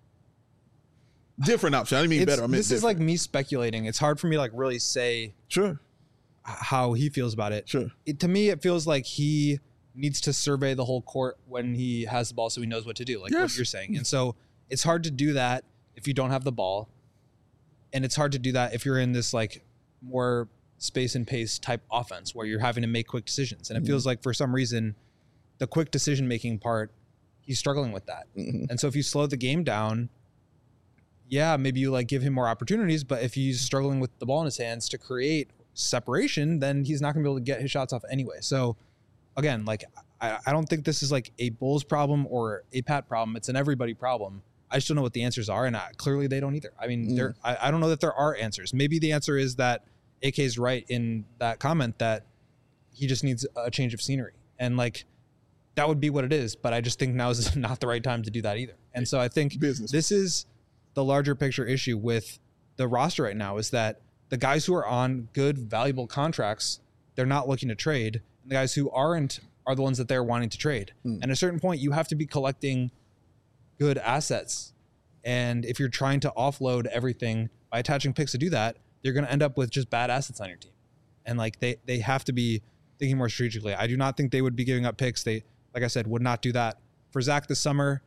different option? I didn't mean better. I meant this is different. like me speculating. It's hard for me to like really say Sure. how he feels about it. Sure. To me, it feels like he needs to survey the whole court when he has the ball so he knows what to do, like what you're saying. And so it's hard to do that if you don't have the ball. And it's hard to do that if you're in this like more space and pace type offense where you're having to make quick decisions. And it feels like for some reason, the quick decision-making part, he's struggling with that. And so if you slow the game down, yeah, maybe you like give him more opportunities, but if he's struggling with the ball in his hands to create separation, then he's not gonna be able to get his shots off anyway. So again, like I don't think this is like a Bulls problem or a Pat problem. It's an everybody problem. I just don't know what the answers are, and clearly they don't either. I mean, I don't know that there are answers. Maybe the answer is that AK's right in that comment that he just needs a change of scenery, and like that would be what it is. But I just think now is not the right time to do that either. And so I think this is the larger picture issue with the roster right now is that the guys who are on good, valuable contracts, they're not looking to trade. And the guys who aren't are the ones that they're wanting to trade. And at a certain point, you have to be collecting good assets. And if you're trying to offload everything by attaching picks to do that, you're going to end up with just bad assets on your team. And like they have to be thinking more strategically. I do not think they would be giving up picks. They, like I said, would not do that for Zach this summer.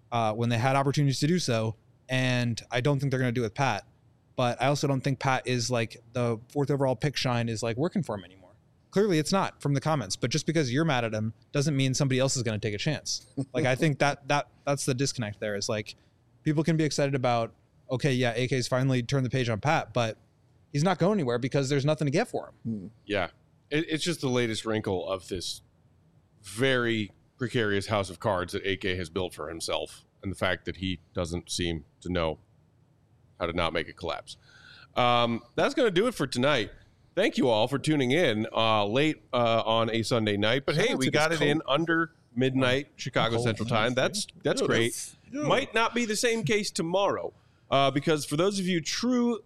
when they had opportunities to do so. And I don't think they're going to do it with Pat. But I also don't think Pat is like the 4th overall pick shine is like working for him anymore. Clearly it's not from the comments, but just because you're mad at him doesn't mean somebody else is going to take a chance. Like, I think that's the disconnect there is like people can be excited about, okay, yeah, AK's finally turned the page on Pat, but he's not going anywhere because there's nothing to get for him. Yeah. It's just the latest wrinkle of this very precarious house of cards that AK has built for himself. And the fact that he doesn't seem to know how to not make it collapse. That's going to do it for tonight. Thank you all for tuning in late on a Sunday night. But hey, we got it in under midnight Chicago Central Time. That's great. Might not be the same case tomorrow because for those of you true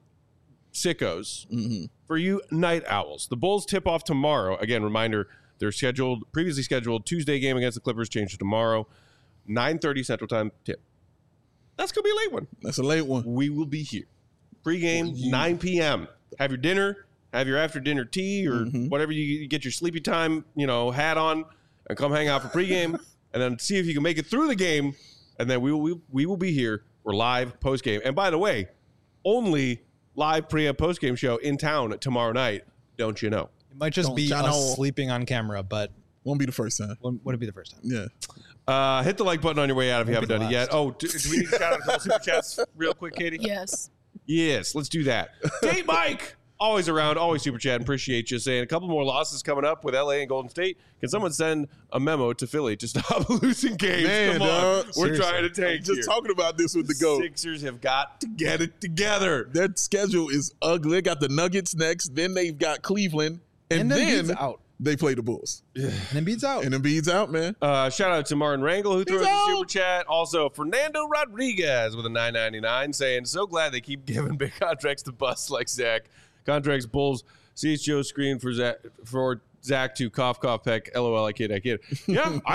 sickos, for you night owls, the Bulls tip off tomorrow. Again, reminder, they're previously scheduled Tuesday game against the Clippers changed to tomorrow, 9:30 Central Time tip. That's going to be a late one. That's a late one. We will be here. Pre-game, 9 p.m. Have your dinner, have your after-dinner tea, or whatever you get your sleepy time, hat on, and come hang out for pre-game, and then see if you can make it through the game, and then we will be here. We're live post-game. And by the way, only live pre- and post-game show in town tomorrow night, don't you know? It might just be us sleeping on camera, but won't be the first time. Wouldn't be the first time. Yeah. Hit the like button on your way out if you haven't done it yet. Oh, do we need to shout out a couple super chats real quick, Katie? Yes, let's do that. Date Mike, always around, always super chat. Appreciate you saying a couple more losses coming up with LA and Golden State. Can someone send a memo to Philly to stop losing games? Man, come on, dog. we're trying to take just talking about this with the GOAT. Sixers have got to get it together. Their schedule is ugly. They got the Nuggets next, then they've got Cleveland, and then Embiid's out. They play the Bulls. And Embiid's out. And Embiid's out, man. Shout out to Martin Rangel who threw us a super chat. Also, Fernando Rodriguez with a $9.99 saying, so glad they keep giving big contracts to busts like Zach. Contracts Bulls. CHO screen for Zach to cough, peck. LOL, I kid. Yeah, I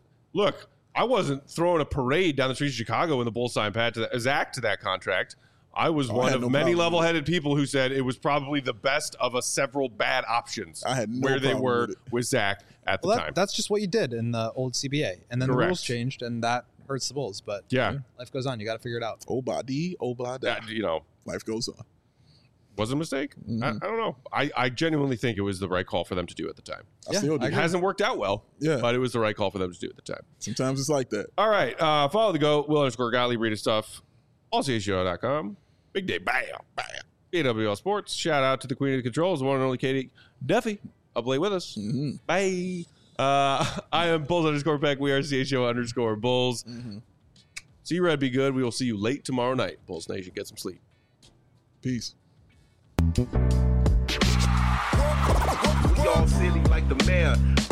wasn't throwing a parade down the streets of Chicago when the Bulls signed Zach to that contract. I was one of many level-headed people who said it was probably the best of a several bad options I had no where they problem were with Zach at the time. That's just what you did in the old CBA. And then Correct. the rules changed, and that hurts the Bulls. But Yeah. life goes on. You got to figure it out. Obadi. Life goes on. Was it a mistake? I don't know. I genuinely think it was the right call for them to do at the time. I still do. It hasn't worked out well, Yeah. but it was the right call for them to do at the time. Sometimes it's like that. All right. Follow the GOAT, Will_Gottlieb, read his stuff, allchgo.com. Big day, bam, bam. AWL Sports. Shout out to the Queen of the Controls, the one and only Katie Duffy. Up late with us. Bye. I am Bulls_Beck. We are CHO_Bulls. See you, Red. Be good. We will see you late tomorrow night. Bulls Nation, get some sleep. Peace. We all silly like the mayor.